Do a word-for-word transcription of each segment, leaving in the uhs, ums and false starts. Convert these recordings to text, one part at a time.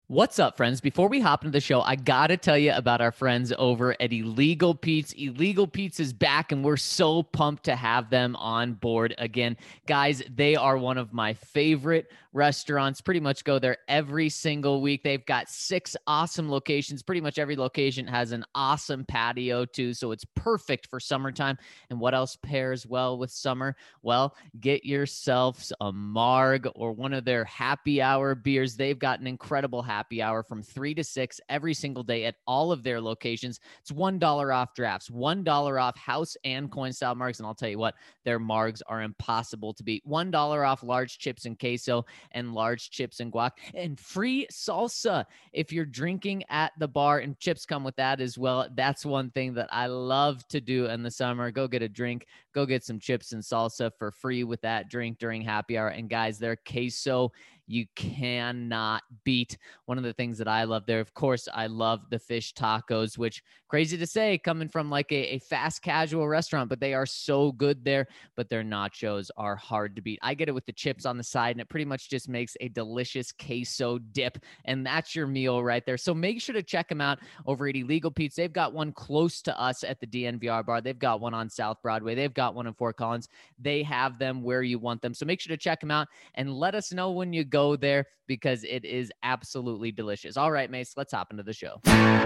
What's up, friends? Before we hop into the show, I got to tell you about our friends over at Illegal Pete's. Illegal Pete's is back, and we're so pumped to have them on board again. Guys, they are one of my favorite restaurants. Pretty much go there every single week. They've got six awesome locations. Pretty much every location has an awesome patio, too, so it's perfect for summertime. And what else pairs well with summer? Well, get yourselves a Marg or one of their happy hour beers. They've got an incredible happy happy hour from three to six every single day at all of their locations. It's one dollar off drafts, one dollar off house and coin style margs. And I'll tell you what, their margs are impossible to beat. one dollar off large chips and queso and large chips and guac, and free salsa if you're drinking at the bar, and chips come with that as well. That's one thing that I love to do in the summer. Go get a drink, go get some chips and salsa for free with that drink during happy hour. And guys, their queso you cannot beat. One of the things that I love there, of course, I love the fish tacos, which crazy to say coming from like a, a fast casual restaurant, but they are so good there. But their nachos are hard to beat. I get it with the chips on the side, and it pretty much just makes a delicious queso dip, and that's your meal right there. So make sure to check them out over at Illegal Pete's. They've got one close to us at the D N V R bar. They've got one on South Broadway. They've got one in Fort Collins. They have them where you want them. So make sure to check them out and let us know when you go there, because it is absolutely delicious. All right, Mace, let's hop into the show.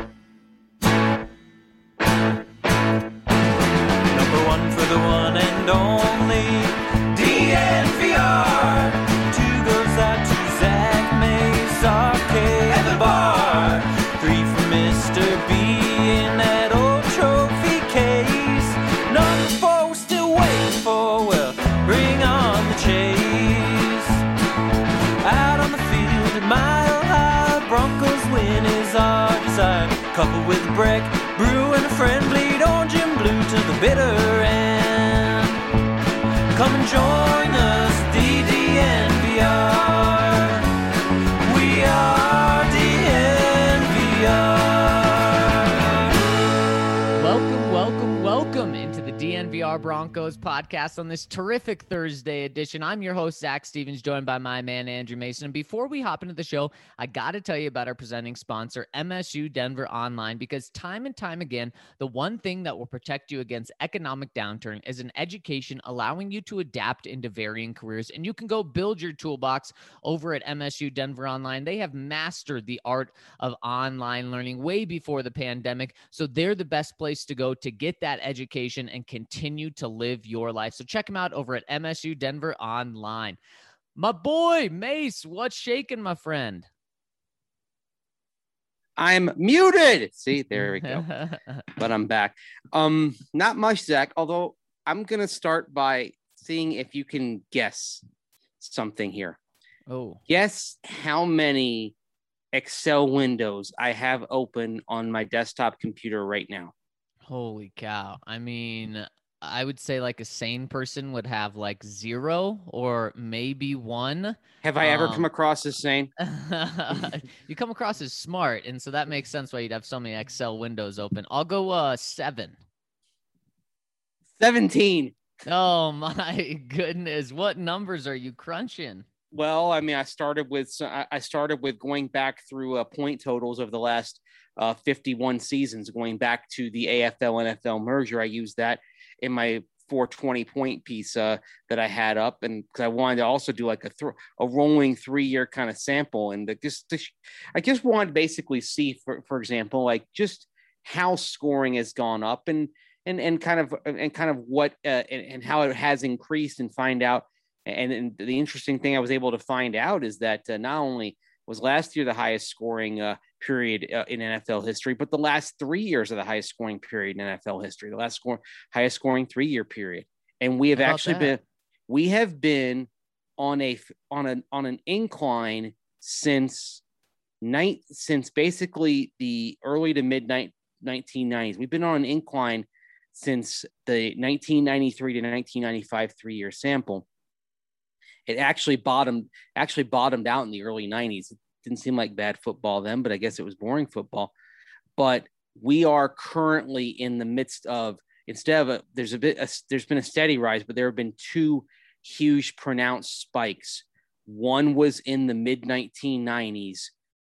Number one for the one and only D N V R. Two goes out to Zach Mace, Arcade, and the bar. Three for Mister B in that old trophy case. Number four we're still waiting for, well, bring on the chase. Out on the field at Mile High, Broncos win is our desire. Coupled with Breck, Brew, and a friend, bleed orange and blue to the bitter end. Come and join us, D D N V R. We are D N V R. Welcome, welcome, welcome into the D N V R Broncos podcast on this terrific Thursday edition. I'm your host, Zach Stevens, joined by my man, Andrew Mason. And before we hop into the show, I got to tell you about our presenting sponsor, M S U Denver Online, because time and time again, the one thing that will protect you against economic downturn is an education allowing you to adapt into varying careers. And you can go build your toolbox over at M S U Denver Online. They have mastered the art of online learning way before the pandemic. So they're the best place to go to get that education and continue to live your life. So check them out over at M S U Denver Online. My boy, Mace, what's shaking, my friend? I'm muted. See, there we go. But I'm back. Um, not much, Zach, although I'm going to start by seeing if you can guess something here. Oh. Guess how many Excel windows I have open on my desktop computer right now. Holy cow. I mean, I would say like a sane person would have like zero or maybe one. Have I ever um, come across as sane? You come across as smart, and so that makes sense why you'd have so many Excel windows open. I'll go uh seven. seventeen. Oh my goodness. What numbers are you crunching? Well, I mean, I started with I started with going back through uh, point totals of the last uh, fifty-one seasons, going back to the A F L N F L merger. I used that in my four twenty point piece uh, that I had up, and because I wanted to also do like a th- a rolling three year kind of sample, and the, just the, I just wanted to basically see, for for example, like just how scoring has gone up, and and and kind of and kind of what uh, and, and how it has increased, and find out. And, and the interesting thing I was able to find out is that uh, not only was last year the highest scoring uh, period uh, in N F L history, but the last three years are the highest scoring period in N F L history, the last score, highest scoring three year period. And we have actually that? been, we have been on a, on an, on an incline since night, since basically the early to mid nineteen nineties. We've been on an incline since the nineteen ninety-three to nineteen ninety-five three year sample. It actually bottomed actually bottomed out in the early nineties. It didn't seem like bad football then, but I guess it was boring football. But we are currently in the midst of, instead of a, there's a bit, a, there's been a steady rise, but there have been two huge pronounced spikes. One was in the mid nineteen nineties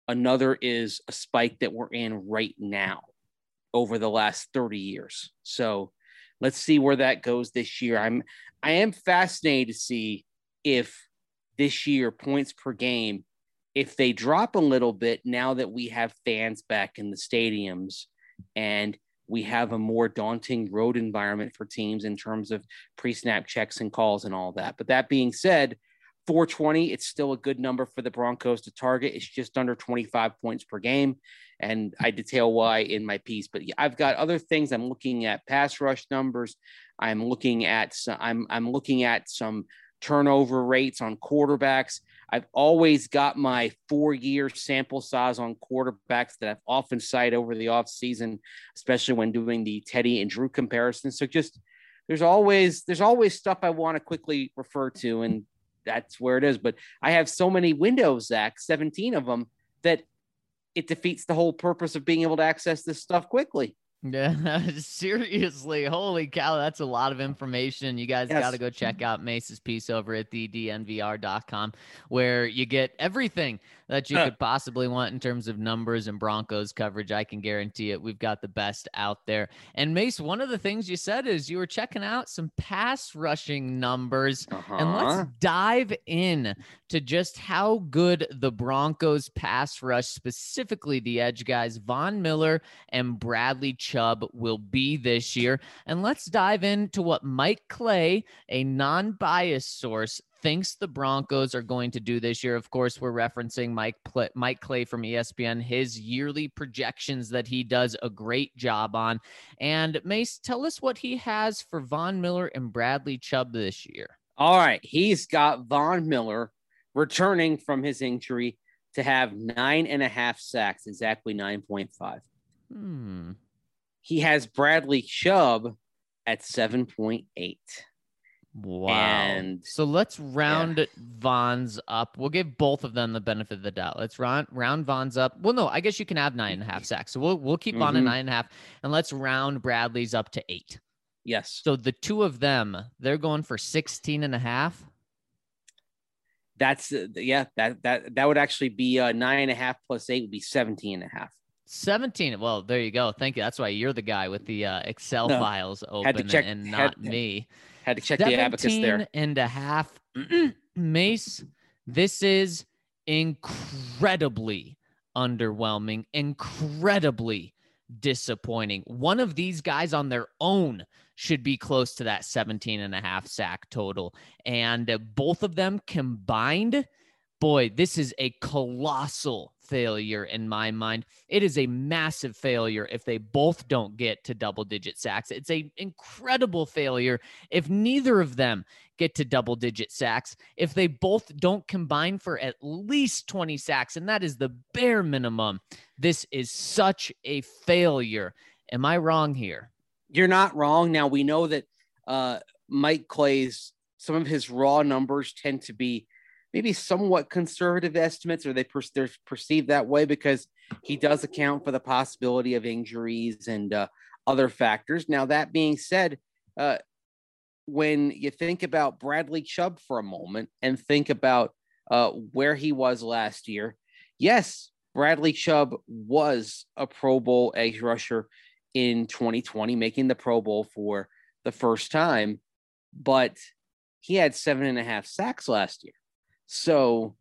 Another is a spike that we're in right now over the last thirty years. So let's see where that goes this year. I'm, I am fascinated to see if this year points per game, if they drop a little bit now that we have fans back in the stadiums and we have a more daunting road environment for teams in terms of pre-snap checks and calls and all that. But that being said, four twenty, it's still a good number for the Broncos to target. It's just under twenty-five points per game. And I detail why in my piece, but I've got other things. I'm looking at pass rush numbers. I'm looking at, some, I'm, I'm looking at some turnover rates on quarterbacks. I've always got my four-year sample size on quarterbacks that I've often cited over the offseason, especially when doing the Teddy and Drew comparison. So just there's always there's always stuff I want to quickly refer to, and that's where it is. But I have so many windows, Zach, seventeen of them, that it defeats the whole purpose of being able to access this stuff quickly. Yeah, seriously. Holy cow. That's a lot of information. You guys Yes. got to go check out Mace's piece over at the D N V R dot com, where you get everything that you Huh. could possibly want in terms of numbers and Broncos coverage. I can guarantee it. We've got the best out there. And Mace, one of the things you said is you were checking out some pass rushing numbers. Uh-huh. And let's dive in to just how good the Broncos pass rush, specifically the edge guys, Von Miller and Bradley Chubb, will be this year. And let's dive into what Mike Clay, a non-biased source, thinks the Broncos are going to do this year. Of course, we're referencing Mike Pl- Mike Clay from E S P N, his yearly projections that he does a great job on. And Mace, tell us what he has for Von Miller and Bradley Chubb this year. All right. He's got Von Miller returning from his injury to have nine and a half sacks, exactly nine point five. Hmm. He has Bradley Chubb at seven point eight. Wow. And so let's round Von's up. We'll give both of them the benefit of the doubt. Let's round round Von's up. Well, no, I guess you can have nine and a half sacks. So we'll we'll keep Von at Mhm. nine and a half, and let's round Bradley's up to eight. Yes. So the two of them, they're going for sixteen and a half. That's uh, yeah, that that that would actually be uh, nine and a half plus eight would be seventeen and a half. seventeen. Well, there you go. Thank you. That's why you're the guy with the uh, Excel No, files open had to check- and had- not had- me. Had to check the abacus seventeen there. and a half. Mace, this is incredibly underwhelming, incredibly disappointing. One of these guys on their own should be close to that seventeen and a half sack total. And uh, both of them combined, boy, this is a colossal failure in my mind. It is a massive failure if they both don't get to double digit sacks. It's an incredible failure if neither of them get to double digit sacks, if they both don't combine for at least twenty sacks, and that is the bare minimum. This is such a failure. Am I wrong here? You're not wrong. Now we know that uh, Mike Clay's, some of his raw numbers tend to be maybe somewhat conservative estimates, or they per- they're perceived that way because he does account for the possibility of injuries and uh, other factors. Now, that being said, uh, when you think about Bradley Chubb for a moment and think about uh, where he was last year, yes, Bradley Chubb was a Pro Bowl edge rusher in twenty twenty, making the Pro Bowl for the first time, but he had seven and a half sacks last year. So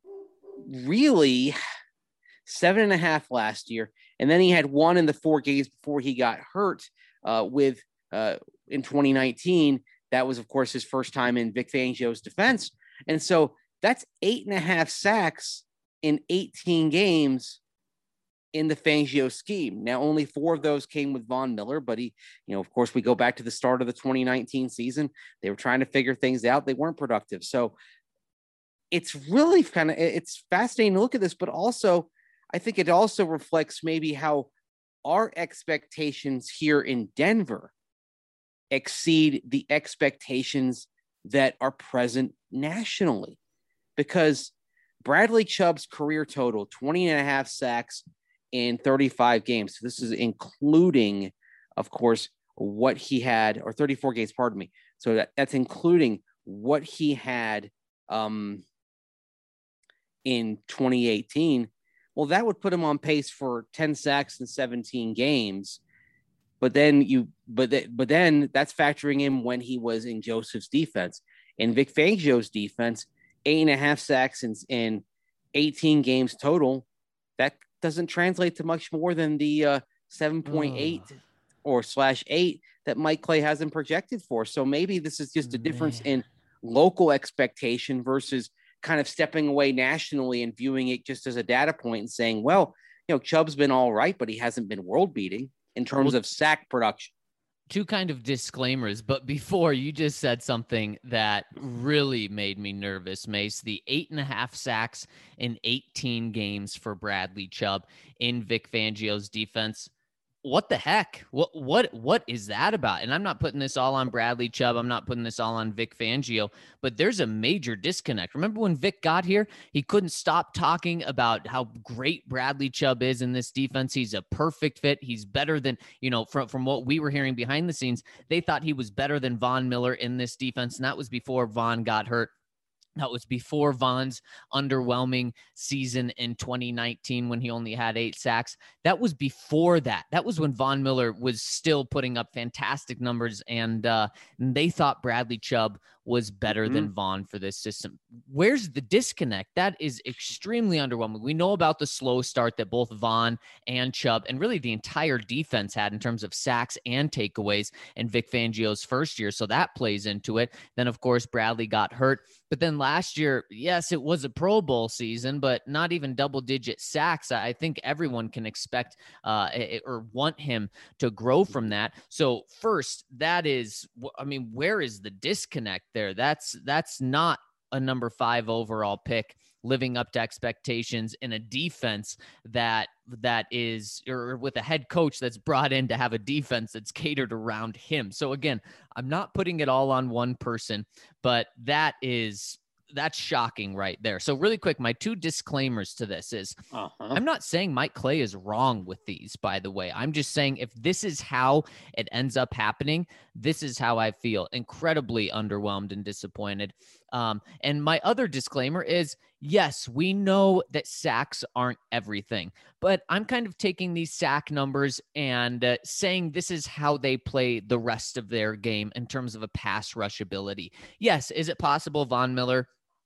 really seven and a half last year. And then he had one in the four games before he got hurt uh, with uh, in twenty nineteen. That was, of course, his first time in Vic Fangio's defense. And so that's eight and a half sacks in eighteen games in the Fangio scheme. Now, only four of those came with Von Miller, but he, you know, of course, we go back to the start of the twenty nineteen season. They were trying to figure things out. They weren't productive. So it's really kind of, it's fascinating to look at this, but also I think it also reflects maybe how our expectations here in Denver exceed the expectations that are present nationally, because Bradley Chubb's career total, twenty and a half sacks in thirty-five games. So this is including, of course, what he had, or thirty-four games, pardon me. So that, that's including what he had um, in twenty eighteen, Well, that would put him on pace for ten sacks in seventeen games. But then you, but th- but then that's factoring in when he was in Joseph's defense. In Vic Fangio's defense, eight and a half sacks in, in eighteen games total. That doesn't translate to much more than the uh, seven point eight oh. or slash eight that Mike Clay has him projected for. So maybe this is just a difference Man. in local expectation versus kind of stepping away nationally and viewing it just as a data point and saying, well, you know, Chubb's been all right, but he hasn't been world beating in terms well, of sack production. Two kind of disclaimers, but before you just said something that really made me nervous, Mace. The eight and a half sacks in eighteen games for Bradley Chubb in Vic Fangio's defense. What the heck? What what what is that about? And I'm not putting this all on Bradley Chubb. I'm not putting this all on Vic Fangio, but there's a major disconnect. Remember when Vic got here, he couldn't stop talking about how great Bradley Chubb is in this defense. He's a perfect fit. He's better than, you know, from, from what we were hearing behind the scenes, they thought he was better than Von Miller in this defense. And that was before Von got hurt. That was before Von's underwhelming season in twenty nineteen when he only had eight sacks. That was before that. That was when Von Miller was still putting up fantastic numbers, and uh, they thought Bradley Chubb was better mm-hmm. than Von for this system. Where's the disconnect? That is extremely underwhelming. We know about the slow start that both Von and Chubb and really the entire defense had in terms of sacks and takeaways in Vic Fangio's first year, so that plays into it. Then, of course, Bradley got hurt. But then last year, yes, it was a Pro Bowl season, but not even double-digit sacks. I think everyone can expect uh, or want him to grow from that. So first, that is, I mean, where is the disconnect there? That's that's not a number five overall pick living up to expectations in a defense that that is, or with a head coach that's brought in to have a defense that's catered around him. So again, I'm not putting it all on one person, but that is, that's shocking right there. So really quick, my two disclaimers to this is uh-huh. I'm not saying Mike Clay is wrong with these, by the way. I'm just saying if this is how it ends up happening, this is how I feel. Incredibly underwhelmed and disappointed. Um, and my other disclaimer is, yes, we know that sacks aren't everything, but I'm kind of taking these sack numbers and uh, saying this is how they play the rest of their game in terms of a pass rush ability. Yes, is it possible Von Miller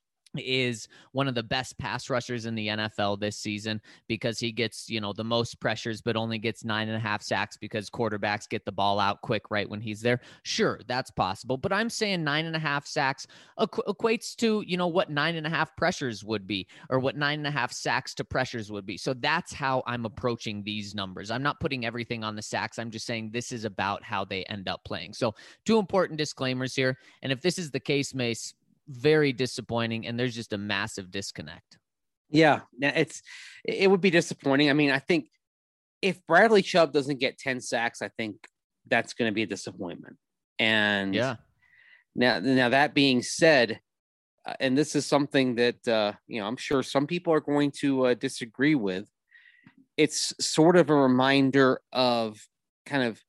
is one of the best pass rushers in the N F L this season because he gets, you know, the most pressures, but only gets nine and a half sacks because quarterbacks get the ball out quick right when he's there? Sure, that's possible. But I'm saying nine and a half sacks equ- equates to, you know, what nine and a half pressures would be, or what nine and a half sacks to pressures would be. So that's how I'm approaching these numbers. I'm not putting everything on the sacks. I'm just saying this is about how they end up playing. So two important disclaimers here. And if this is the case, Mace, very disappointing, and there's just a massive disconnect. Yeah, it's it would be disappointing. I mean, I think if Bradley Chubb doesn't get ten sacks, I think that's going to be a disappointment. And yeah, now now that being said, uh, and this is something that uh, you know I'm sure some people are going to uh, disagree with. It's sort of a reminder of kind of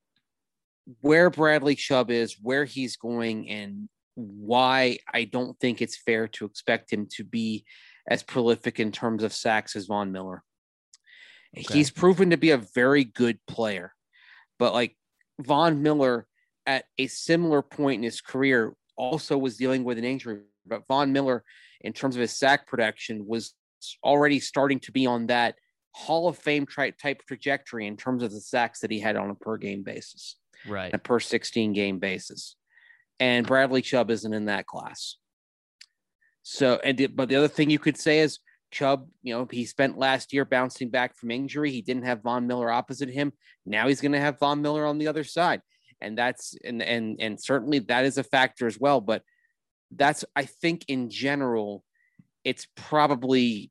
where Bradley Chubb is, where he's going, and why I don't think it's fair to expect him to be as prolific in terms of sacks as Von Miller. Okay. He's proven to be a very good player, but like Von Miller at a similar point in his career also was dealing with an injury, but Von Miller in terms of his sack production was already starting to be on that Hall of Fame type trajectory in terms of the sacks that he had on a per game basis, right? A per sixteen game basis. And Bradley Chubb isn't in that class. So, and the, but the other thing you could say is Chubb, you know, he spent last year bouncing back from injury. He didn't have Von Miller opposite him. Now he's going to have Von Miller on the other side. And that's, and, and, and certainly that is a factor as well. But that's, I think in general, it's probably,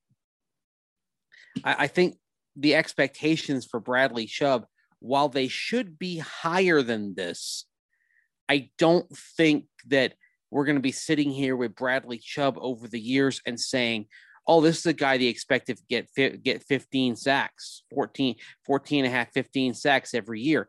I, I think the expectations for Bradley Chubb, while they should be higher than this, I don't think that we're going to be sitting here with Bradley Chubb over the years and saying, oh, this is a guy they expect to get get fifteen sacks, fourteen, fourteen and a half, fifteen sacks every year.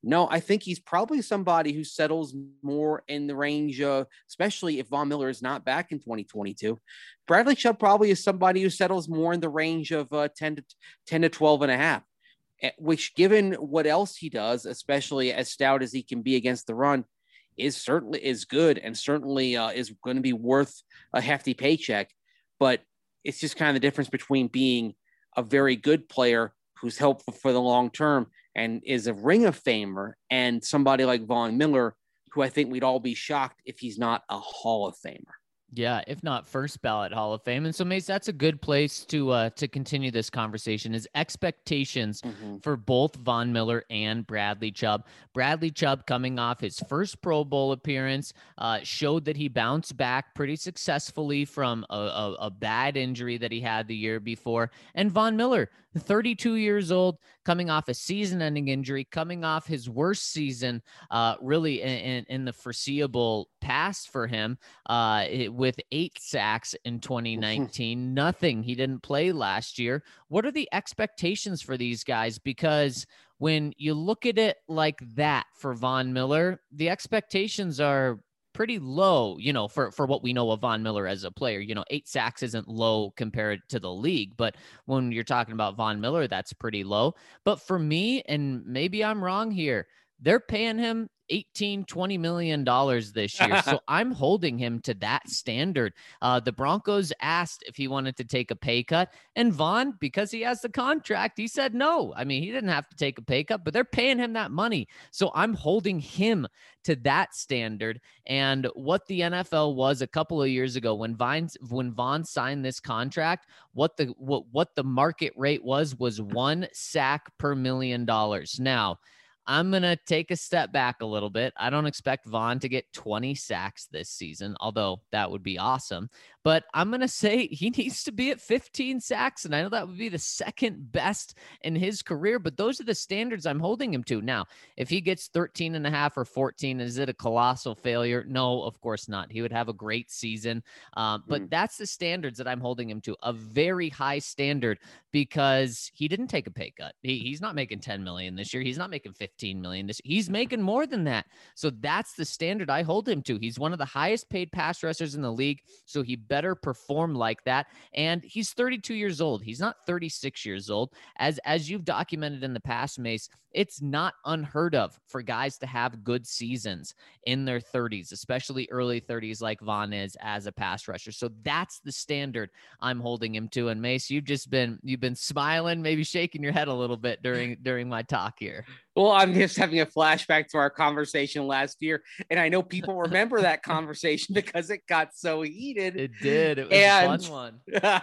No, I think he's probably somebody who settles more in the range of, especially if Von Miller is not back in twenty twenty-two. Bradley Chubb probably is somebody who settles more in the range of uh, ten to ten to twelve and a half, which, given what else he does, especially as stout as he can be against the run, is certainly is good and certainly uh, is going to be worth a hefty paycheck. But it's just kind of the difference between being a very good player who's helpful for the long term and is a Ring of Famer, and somebody like Von Miller, who I think we'd all be shocked if he's not a Hall of Famer. Yeah, if not first ballot Hall of Fame. And so, Mace, that's a good place to uh, to continue this conversation, is expectations mm-hmm. for both Von Miller and Bradley Chubb. Bradley Chubb, coming off his first Pro Bowl appearance, uh, showed that he bounced back pretty successfully from a, a, a bad injury that he had the year before. And Von Miller, thirty-two years old, coming off a season-ending injury, coming off his worst season, uh, really in, in, in the foreseeable past for him, uh, it, with eight sacks in twenty nineteen. Nothing. He didn't play last year. What are the expectations for these guys? Because when you look at it like that for Von Miller, the expectations are pretty low, you know, for, for what we know of Von Miller as a player. You know, eight sacks isn't low compared to the league, but when you're talking about Von Miller, that's pretty low. But for me, and maybe I'm wrong here, they're paying him eighteen, twenty million dollars this year. So I'm holding him to that standard. Uh, the Broncos asked if he wanted to take a pay cut, and Von, because he has the contract, he said no. I mean, he didn't have to take a pay cut, but they're paying him that money. So I'm holding him to that standard. And what the N F L was a couple of years ago when Vine, when Von signed this contract, what the, what, what the market rate was, was one sack per million dollars. Now, I'm going to take a step back a little bit. I don't expect Von to get twenty sacks this season, although that would be awesome. But I'm going to say he needs to be at fifteen sacks, and I know that would be the second best in his career, but those are the standards I'm holding him to. Now, if he gets thirteen and a half or fourteen, is it a colossal failure? No, of course not. He would have a great season, um, but mm. that's the standards that I'm holding him to, a very high standard, because he didn't take a pay cut. He, he's not making ten million dollars this year. He's not making fifteen million dollars. He's making more than that. So that's the standard I hold him to. He's one of the highest paid pass rushers in the league, so he better perform like that. And he's thirty-two years old. He's not thirty-six years old. As, as you've documented in the past, Mace, it's not unheard of for guys to have good seasons in their thirties, especially early thirties like Von is as a pass rusher. So that's the standard I'm holding him to. And Mace, you've just been, you've been smiling, maybe shaking your head a little bit during, during my talk here. Well, I'm just having a flashback to our conversation last year, and I know people remember that conversation because it got so heated. It did. It was and, a fun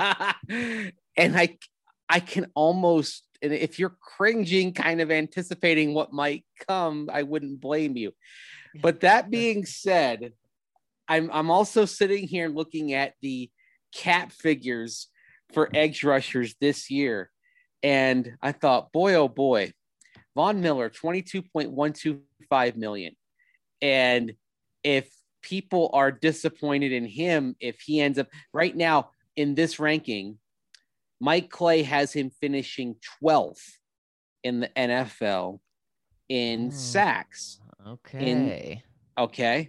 one. And I, I can almost, and if you're cringing, kind of anticipating what might come, I wouldn't blame you. But that being said, I'm I'm also sitting here looking at the cap figures for edge rushers this year, and I thought, boy, oh boy. Von Miller, twenty-two point one two five million. And if people are disappointed in him, if he ends up right now in this ranking, Mike Clay has him finishing twelfth in the N F L in oh, sacks. Okay. In, okay.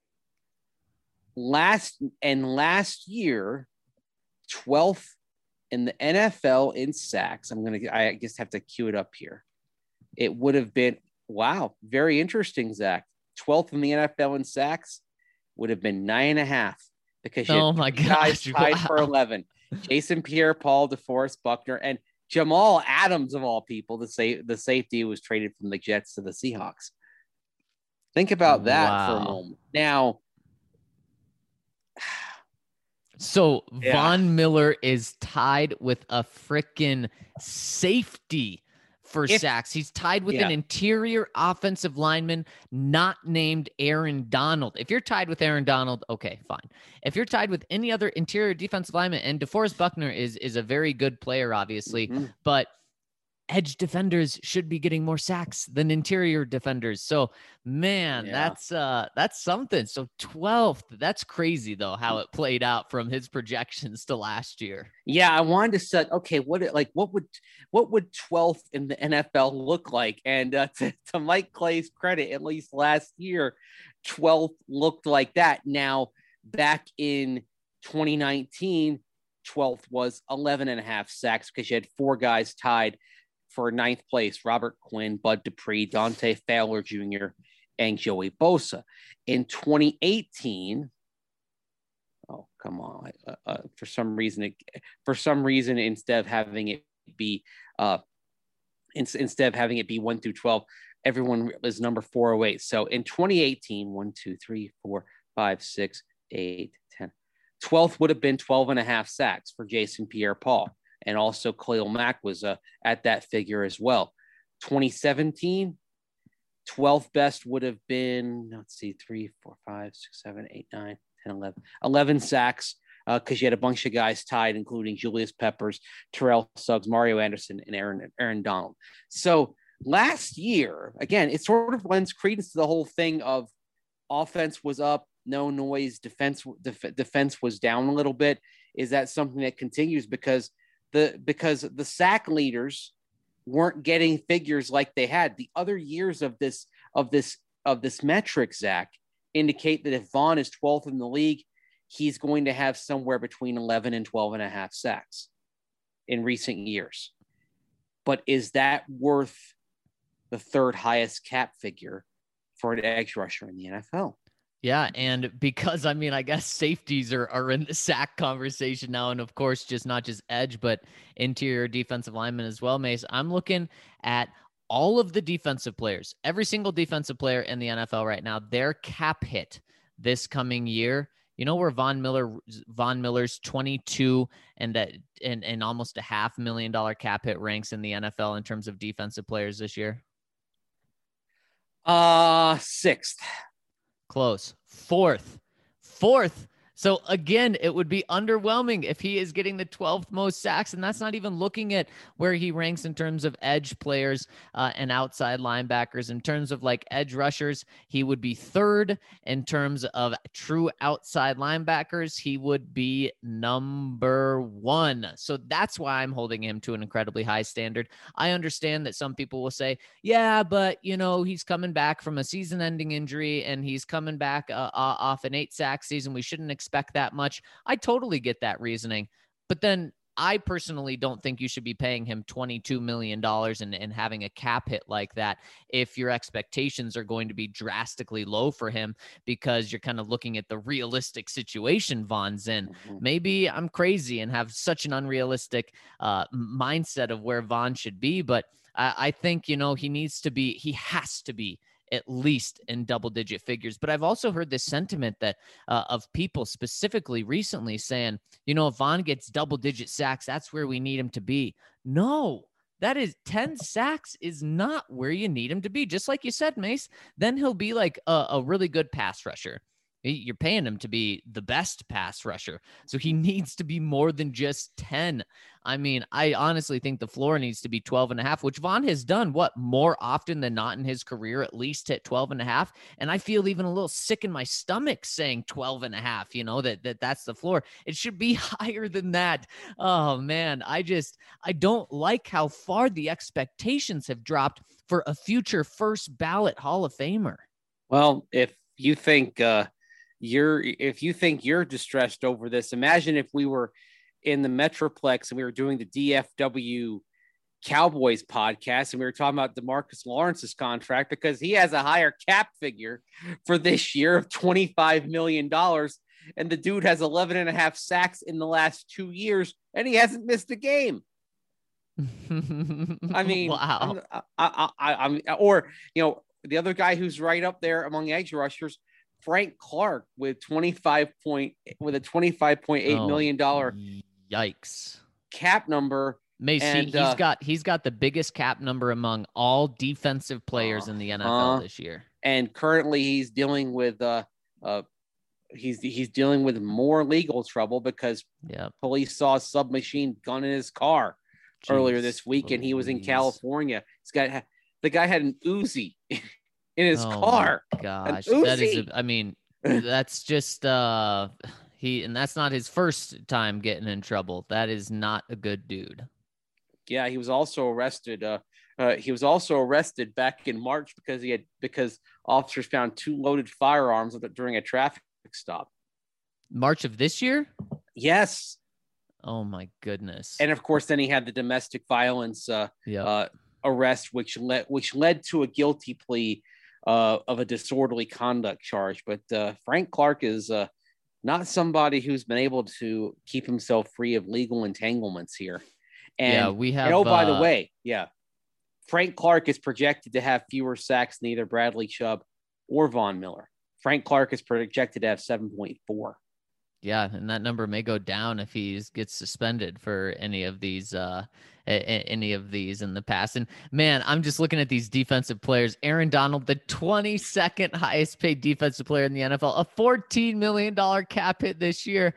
Last and last year, twelfth in the N F L in sacks. I'm going to, I just have to cue it up here. It would have been, wow, very interesting, Zach. twelfth in the N F L in sacks would have been nine and a half because you oh my guys gosh, tied wow. for eleven. Jason Pierre-Paul, DeForest Buckner, and Jamal Adams, of all people, the, sa- the safety who was traded from the Jets to the Seahawks. Think about that wow. for a moment. Now, so yeah. Von Miller is tied with a freaking safety for if, sacks. He's tied with yeah. an interior offensive lineman not named Aaron Donald. If you're tied with Aaron Donald, okay, fine. If you're tied with any other interior defensive lineman, and DeForest Buckner is is a very good player, obviously, mm-hmm. but edge defenders should be getting more sacks than interior defenders. So, man, Yeah. that's uh that's something. So twelfth, that's crazy though how it played out from his projections to last year. Yeah, I wanted to set okay, what it like what would what would twelfth in the N F L look like? And uh, to, to Mike Clay's credit, at least last year, twelfth looked like that. Now, back in twenty nineteen, twelfth was eleven and a half sacks because you had four guys tied for ninth place: Robert Quinn, Bud Dupree, Dante Fowler Junior, and Joey Bosa. In twenty eighteen, oh, come on. Uh, uh, for some reason, it, for some reason, instead of having it be, uh, in, instead of having it be one through twelve, everyone is number four oh eight. So in twenty eighteen, one, two, three, four, five, six, eight, ten. twelfth would have been twelve and a half sacks for Jason Pierre-Paul. And also Khalil Mack was uh, at that figure as well. twenty seventeen, twelfth best would have been, let's see, three, four, five, six, seven, eight, nine, ten, eleven. eleven sacks because uh, you had a bunch of guys tied, including Julius Peppers, Terrell Suggs, Mario Anderson, and Aaron, Aaron Donald. So last year, again, it sort of lends credence to the whole thing of offense was up, no noise, defense def- defense was down a little bit. Is that something that continues because the because the sack leaders weren't getting figures like they had the other years of this of this of this metric? Zach, indicate that if Vaughn is twelfth in the league, he's going to have somewhere between eleven and twelve and a half sacks in recent years. But is that worth the third highest cap figure for an edge rusher in the N F L? Yeah, and because, I mean, I guess safeties are, are in the sack conversation now, and of course, just not just edge, but interior defensive linemen as well, Mace. I'm looking at all of the defensive players, every single defensive player in the N F L right now, their cap hit this coming year. You know where Von Miller, Von Miller's twenty-two and that and, and almost a half million dollar cap hit ranks in the N F L in terms of defensive players this year? Uh, sixth. Close. Fourth. Fourth. So again, it would be underwhelming if he is getting the twelfth most sacks, and that's not even looking at where he ranks in terms of edge players uh, and outside linebackers. In terms of like edge rushers, he would be third. In terms of true outside linebackers, he would be number one. So that's why I'm holding him to an incredibly high standard. I understand that some people will say, yeah, but you know, he's coming back from a season-ending injury and he's coming back uh, off an eight-sack season. We shouldn't expect expect that much. I totally get that reasoning, but then I personally don't think you should be paying him twenty-two million dollars and, and having a cap hit like that if your expectations are going to be drastically low for him because you're kind of looking at the realistic situation Von's in. Mm-hmm. Maybe I'm crazy and have such an unrealistic uh, mindset of where Von should be, but I, I think, you know, he needs to be, he has to be at least in double digit figures. But I've also heard this sentiment that uh, of people specifically recently saying, you know, if Von gets double digit sacks, that's where we need him to be. No, that is ten sacks is not where you need him to be. Just like you said, Mace, then he'll be like a, a really good pass rusher. You're paying him to be the best pass rusher. So he needs to be more than just ten. I mean, I honestly think the floor needs to be twelve and a half, which Von has done what more often than not in his career, at least hit twelve and a half. And I feel even a little sick in my stomach saying twelve and a half, you know, that, that that's the floor. It should be higher than that. Oh man, I just, I don't like how far the expectations have dropped for a future first ballot Hall of Famer. Well, if you think, uh, you're if you think you're distressed over this, imagine if we were in the Metroplex and we were doing the D F W Cowboys podcast and we were talking about DeMarcus Lawrence's contract because he has a higher cap figure for this year of twenty-five million dollars and the dude has eleven and a half sacks in the last two years and he hasn't missed a game. I mean, wow. I'm, I, I, I'm, or, you know, the other guy who's right up there among edge rushers, Frank Clark, with twenty-five point with a twenty-five point eight oh, million dollar yikes cap number. Macy, and, he's uh, got he's got the biggest cap number among all defensive players uh, in the N F L uh, this year. And currently, he's dealing with uh, uh, he's he's dealing with more legal trouble because yep. police saw a submachine gun in his car. Jeez, earlier this week, and he was in Louise. California. He's got the guy had an Uzi in his Oh car. my gosh, An that is. Uzi. A, I mean, that's just uh, he, and that's not his first time getting in trouble. That is not a good dude. Yeah, he was also arrested. Uh, uh, he was also arrested back in March because he had because officers found two loaded firearms during a traffic stop. March of this year? Yes. Oh my goodness. And of course, then he had the domestic violence uh, yeah. uh, arrest, which led which led to a guilty plea uh, of a disorderly conduct charge. But uh, Frank Clark is uh, not somebody who's been able to keep himself free of legal entanglements here. And, yeah, we have. And oh, by uh, the way, yeah, Frank Clark is projected to have fewer sacks than either Bradley Chubb or Von Miller. Frank Clark is projected to have seven point four. Yeah, and that number may go down if he gets suspended for any of these, uh, a- a- any of these in the past. And man, I'm just looking at these defensive players. Aaron Donald, the twenty-second highest paid defensive player in the N F L, a fourteen million dollars cap hit this year.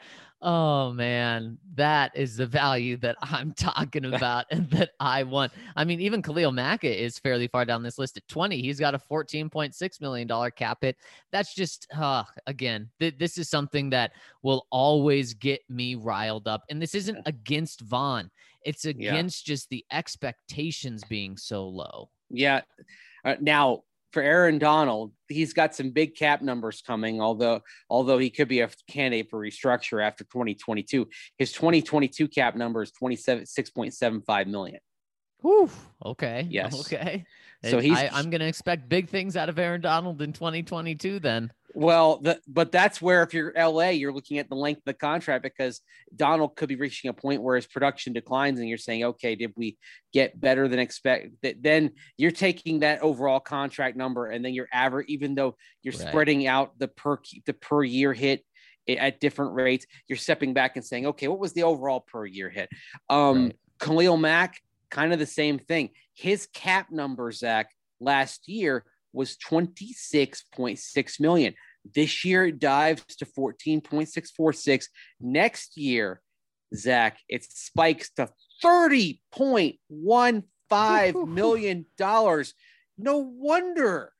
Oh man, that is the value that I'm talking about and that I want. I mean, even Khalil Mack is fairly far down this list at twenty. He's got a fourteen point six million dollars cap hit. That's just, uh, again, th- this is something that will always get me riled up. And this isn't against Von. It's against yeah. just the expectations being so low. Yeah. Uh, now, for Aaron Donald, he's got some big cap numbers coming, although although he could be a candidate for restructure after twenty twenty-two. His twenty twenty-two cap number is twenty-seven six point seven five million. Whew. Okay. Yes. Okay. So he's I, I'm going to expect big things out of Aaron Donald in twenty twenty-two then. Well, the, but that's where if you're L A, you're looking at the length of the contract because Donald could be reaching a point where his production declines and you're saying, okay, did we get better than expected? Then you're taking that overall contract number and then you're average, even though you're right. spreading out the per the per year hit at different rates, you're stepping back and saying, okay, what was the overall per year hit? Um, right. Khalil Mack, kind of the same thing. His cap number, Zach, last year was twenty-six point six million. This year it dives to fourteen point six four six. Next year, Zach, it spikes to thirty point one five million dollars. No wonder,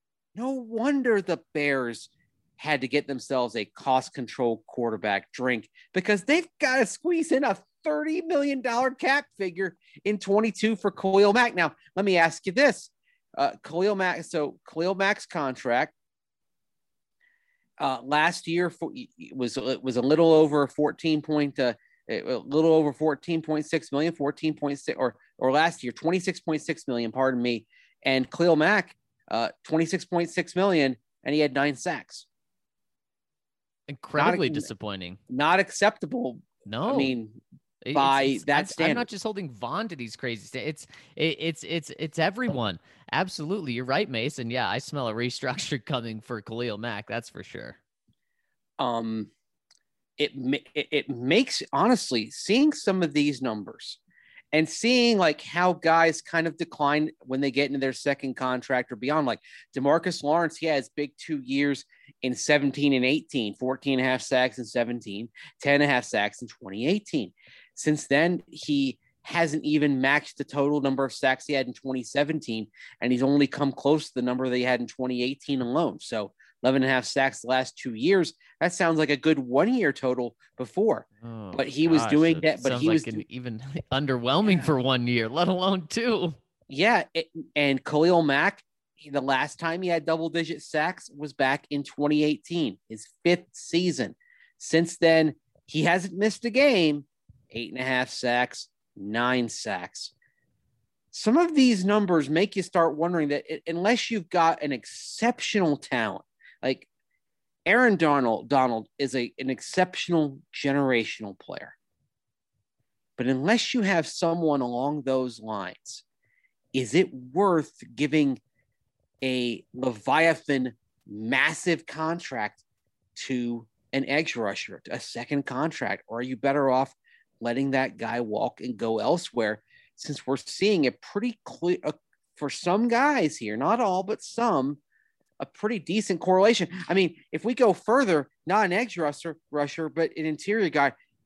no wonder the Bears had to get themselves a cost control quarterback drink because they've got to squeeze in a thirty million dollars cap figure in twenty-two for Khalil Mack. Now, let me ask you this. Uh, Khalil Mack, so Khalil Mack's contract uh, last year for, was it was a little over fourteen point, uh, a little over fourteen point six million, fourteen point six, or or last year twenty-six point six million. Pardon me, and Khalil Mack, uh, twenty-six point six million, and he had nine sacks. Incredibly not, disappointing. Not acceptable. No, I mean. By it's, it's, that I'm, standard, I'm not just holding Von to these crazy. St- it's it, it's it's it's everyone. Absolutely, you're right, Mason. Yeah, I smell a restructure coming for Khalil Mack. That's for sure. Um, it it, it makes honestly seeing some of these numbers and seeing like how guys kind of decline when they get into their second contract or beyond. Like DeMarcus Lawrence, he has big two years in seventeen and eighteen, fourteen and a half sacks in seventeen, ten and a half sacks in twenty eighteen. Since then, he hasn't even matched the total number of sacks he had in twenty seventeen, and he's only come close to the number that he had in twenty eighteen alone. So eleven and a half sacks the last two years. That sounds like a good one-year total before. Oh, but he gosh, was doing that. But he was like even underwhelming for one year, let alone two. Yeah, it, and Khalil Mack, the last time he had double-digit sacks was back in twenty eighteen, his fifth season. Since then, he hasn't missed a game. Eight and a half sacks, nine sacks. Some of these numbers make you start wondering that it, unless you've got an exceptional talent, like Aaron Donald, Donald is a, an exceptional generational player. But unless you have someone along those lines, is it worth giving a Leviathan massive contract to an edge rusher, a second contract? Or are you better off letting that guy walk and go elsewhere, since we're seeing a pretty clear, uh, for some guys here, not all, but some, a pretty decent correlation. I mean, if we go further, not an edge rusher, rusher, but an interior guy,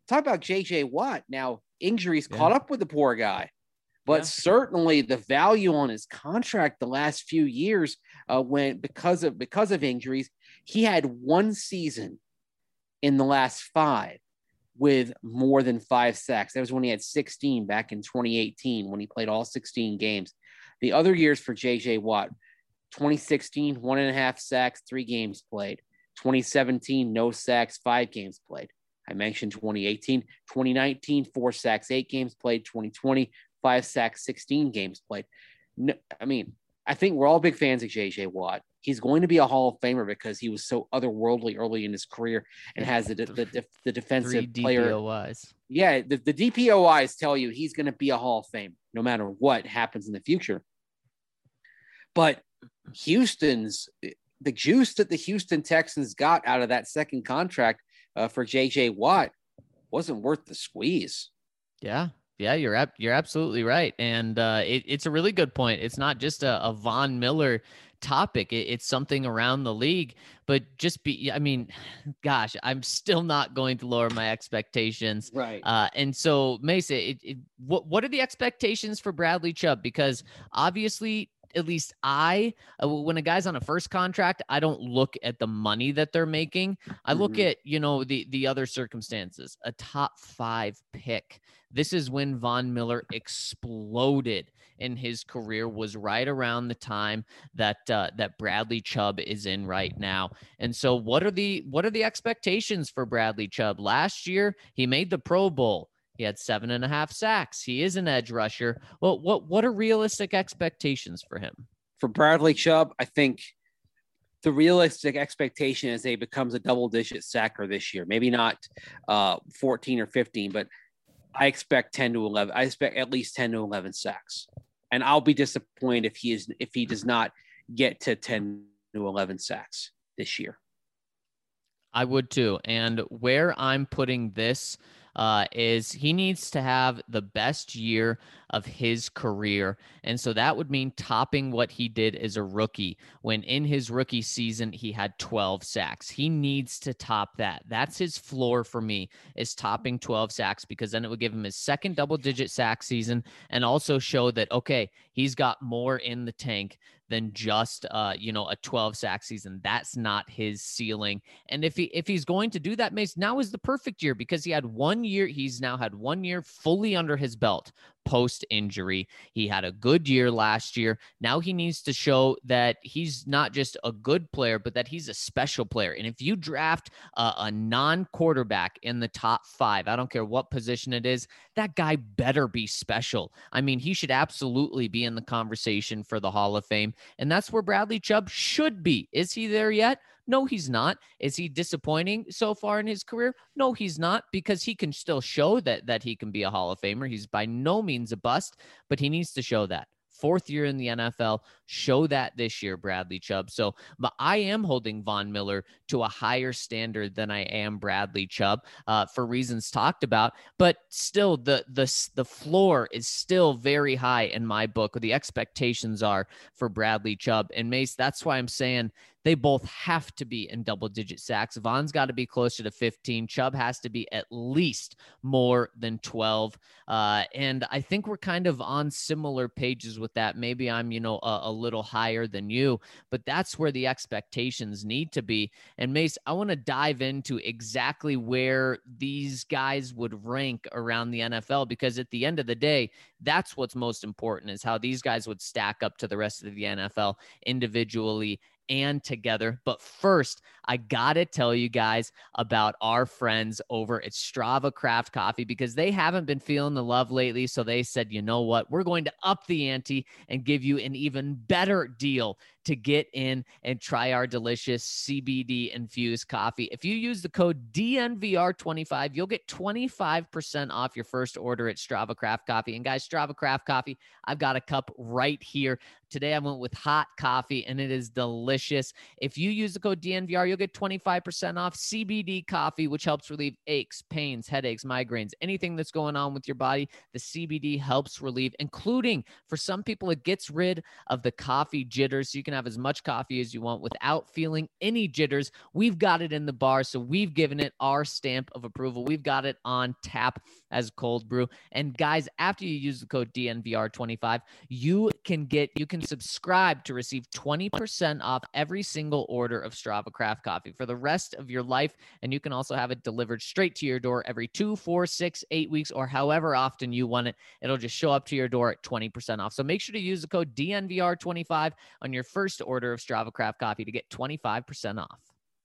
talk about J J Watt. Now, injuries Yeah. caught up with the poor guy, but Yeah. certainly the value on his contract the last few years, uh, when because of because of injuries, he had one season in the last five with more than five sacks. That was when he had sixteen back in twenty eighteen when he played all sixteen games. The other years for J J Watt, twenty sixteen, one and a half sacks, three games played. twenty seventeen, no sacks, five games played. I mentioned twenty eighteen, twenty nineteen, four sacks, eight games played. twenty twenty, five sacks, sixteen games played. No, I mean, I think we're all big fans of J J Watt. He's going to be a Hall of Famer because he was so otherworldly early in his career and has the the, the, the defensive Three player. D P O Is. Yeah, the, the D P O Is tell you he's going to be a Hall of Fame no matter what happens in the future. But Houston's the juice that the Houston Texans got out of that second contract uh, for J J Watt wasn't worth the squeeze. Yeah. Yeah, you're ab- you're absolutely right. And uh, it, it's a really good point. It's not just a, a Von Miller topic. It, it's something around the league, but just be, I mean, gosh, I'm still not going to lower my expectations. Right. Uh, and so Mesa, it, it, what, what are the expectations for Bradley Chubb? Because obviously, at least I, uh, when a guy's on a first contract, I don't look at the money that they're making. I look Mhm. at, you know, the, the other circumstances, a top five pick. This is when Von Miller exploded in his career, was right around the time that, uh, that Bradley Chubb is in right now. And so what are the, what are the expectations for Bradley Chubb? Last year, he made the Pro Bowl. He had seven and a half sacks. He is an edge rusher. Well, what what are realistic expectations for him? For Bradley Chubb, I think the realistic expectation is that he becomes a double-digit sacker this year. Maybe not uh, fourteen or fifteen, but I expect ten to eleven. I expect at least ten to eleven sacks, and I'll be disappointed if he is if he does not get to ten to eleven sacks this year. I would too. And where I'm putting this uh, is he needs to have the best year of his career. And so that would mean topping what he did as a rookie, when in his rookie season, he had twelve sacks. He needs to top that. That's his floor for me, is topping twelve sacks, because then it would give him his second double digit sack season and also show that, okay, he's got more in the tank than just, uh, you know, a twelve sack season. That's not his ceiling. And if he, if he's going to do that, Mace, now is the perfect year, because he had one year. He's now had one year fully under his belt post injury. He had a good year last year. Now he needs to show that he's not just a good player, but that he's a special player. And if you draft a, a non-quarterback in the top five, I don't care what position it is, that guy better be special. I mean, he should absolutely be in the conversation for the Hall of Fame. And that's where Bradley Chubb should be. Is he there yet? No, he's not. Is he disappointing so far in his career? No, he's not, because he can still show that that he can be a Hall of Famer. He's by no means a bust, but he needs to show that. Fourth year in the N F L, show that this year, Bradley Chubb. So, but I am holding Von Miller to a higher standard than I am Bradley Chubb, uh, for reasons talked about. But still, the the the floor is still very high in my book. The expectations are for Bradley Chubb and Mace. That's why I'm saying they both have to be in double-digit sacks. Von's got to be closer to fifteen. Chubb has to be at least more than twelve. Uh, and I think we're kind of on similar pages with that. Maybe I'm, you know, a, a little higher than you, but that's where the expectations need to be. And Mace, I want to dive into exactly where these guys would rank around the N F L, because at the end of the day, that's what's most important, is how these guys would stack up to the rest of the N F L individually and together. But first, I gotta tell you guys about our friends over at Strava Craft Coffee, because they haven't been feeling the love lately. So they said, you know what, we're going to up the ante and give you an even better deal to get in and try our delicious C B D infused coffee. If you use the code D N V R twenty-five, you'll get twenty-five percent off your first order at Strava Craft Coffee. And guys, Strava Craft Coffee, I've got a cup right here Today I went with hot coffee, and it is delicious. If you use the code D N V R, you'll get twenty-five percent off C B D coffee, which helps relieve aches, pains, headaches, migraines, anything that's going on with your body. The C B D helps relieve, including for some people, it gets rid of the coffee jitters. So you can have as much coffee as you want without feeling any jitters. We've got it in the bar, so we've given it our stamp of approval. We've got it on tap as cold brew. And guys, after you use the code D N V R twenty-five, you can get, you can subscribe to receive twenty percent off every single order of Strava Craft Coffee for the rest of your life. And you can also have it delivered straight to your door every two, four, six, eight weeks, or however often you want it. It'll just show up to your door at twenty percent off. So make sure to use the code D N V R twenty-five on your first order of Strava Craft Coffee to get twenty-five percent off.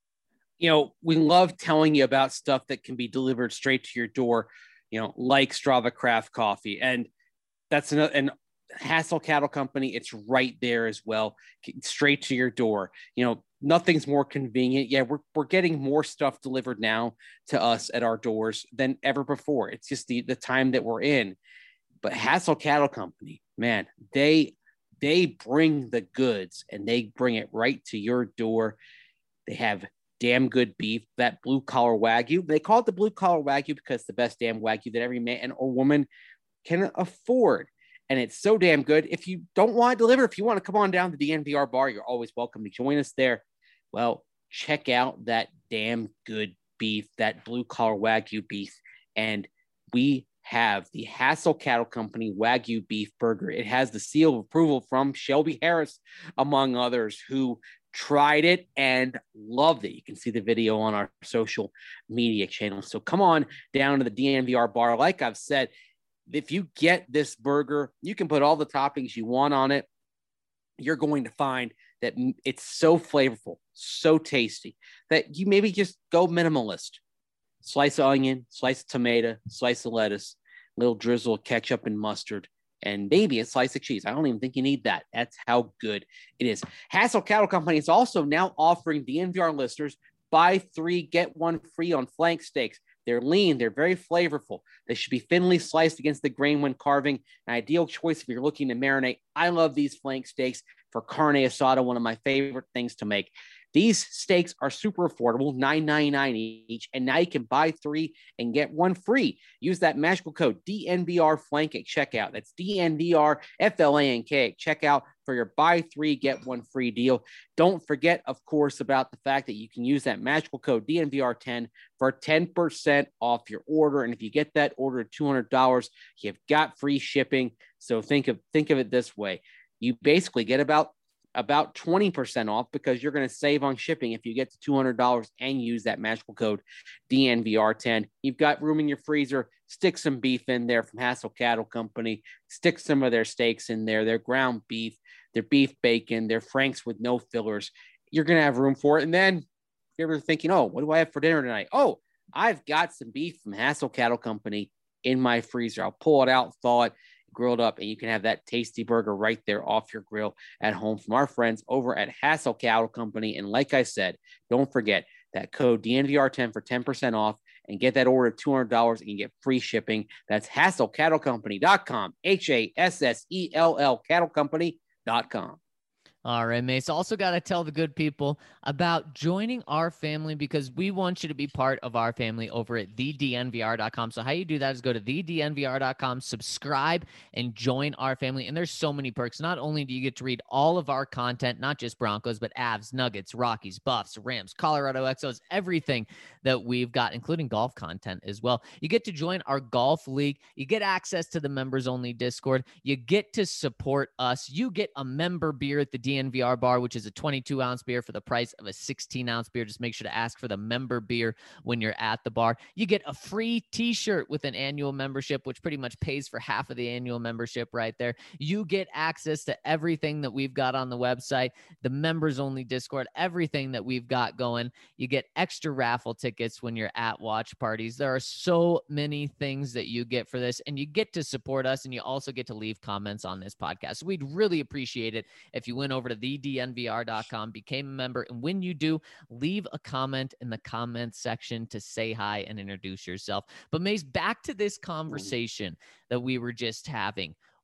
You know, we love telling you about stuff that can be delivered straight to your door, you know, like Strava Craft Coffee. And that's another, and Hassel Cattle Company, it's right there as well, straight to your door. You know, nothing's more convenient. Yeah, we're, we're getting more stuff delivered now to us at our doors than ever before. It's just the, the time that we're in. But Hassel Cattle Company, man, they they bring the goods and they bring it right to your door. They have damn good beef, that blue collar Wagyu. They call it the blue collar Wagyu because it's the best damn Wagyu that every man or woman can afford. And it's so damn good. If you don't want to deliver, if you want to come on down to the D N V R bar, you're always welcome to join us there. Well, check out that damn good beef, that blue collar Wagyu beef. And we have the Hassel Cattle Company Wagyu beef burger. It has the seal of approval from Shelby Harris, among others, who tried it and loved it. You can see the video on our social media channels. So come on down to the D N V R bar. Like I've said, if you get this burger, you can put all the toppings you want on it. You're going to find that it's so flavorful, so tasty, that you maybe just go minimalist. Slice of onion, slice of tomato, slice of lettuce, little drizzle of ketchup and mustard, and maybe a slice of cheese. I don't even think you need that. That's how good it is. Hassel Cattle Company is also now offering D N V R listeners buy three, get one free on flank steaks. They're lean. They're very flavorful. They should be thinly sliced against the grain when carving. An ideal choice if you're looking to marinate. I love these flank steaks for carne asada, one of my favorite things to make. These steaks are super affordable, nine ninety-nine each, and now you can buy three and get one free. Use that magical code D N V R Flank at checkout. That's D N V R F L A N K at checkout for your buy three, get one free deal. Don't forget, of course, about the fact that you can use that magical code D N V R ten for ten percent off your order. And if you get that order at two hundred dollars, you've got free shipping. So think of think of it this way. You basically get about about twenty percent off because you're going to save on shipping if you get to two hundred dollars and use that magical code D N V R ten. You've got room in your freezer. Stick some beef in there from Hassel Cattle Company. Stick some of their steaks in there, their ground beef, their beef bacon, their Franks with no fillers. You're going to have room for it. And then you're ever thinking, oh, what do I have for dinner tonight? Oh, I've got some beef from Hassel Cattle Company in my freezer. I'll pull it out, thaw it, grilled up, and you can have that tasty burger right there off your grill at home from our friends over at Hassel Cattle Company. And like I said, don't forget that code D N V R ten for ten percent off and get that order at two hundred dollars and you get free shipping. That's hassel cattle company dot com, H A S S E L L cattle company dot com. All right, Mace. Also got to tell the good people about joining our family because we want you to be part of our family over at the D N V R dot com. So how you do that is go to the D N V R dot com, subscribe, and join our family. And there's so many perks. Not only do you get to read all of our content, not just Broncos, but Avs, Nuggets, Rockies, Buffs, Rams, Colorado X Os, everything that we've got, including golf content as well. You get to join our golf league. You get access to the members-only Discord. You get to support us. You get a member beer at the D N V R bar, which is a twenty-two ounce beer for the price of a sixteen ounce beer. Just make sure to ask for the member beer when you're at the bar. You get a free t-shirt with an annual membership, which pretty much pays for half of the annual membership right there. You get access to everything that we've got on the website, the members only Discord, everything that we've got going. You get extra raffle tickets when you're at watch parties. There are so many things that you get for this, and you get to support us, and you also get to leave comments on this podcast. So we'd really appreciate it if you went over to the D N V R dot com, became a member, and when you do, leave a comment in the comments section to say hi and introduce yourself. But Mace, back to this conversation that we were just having.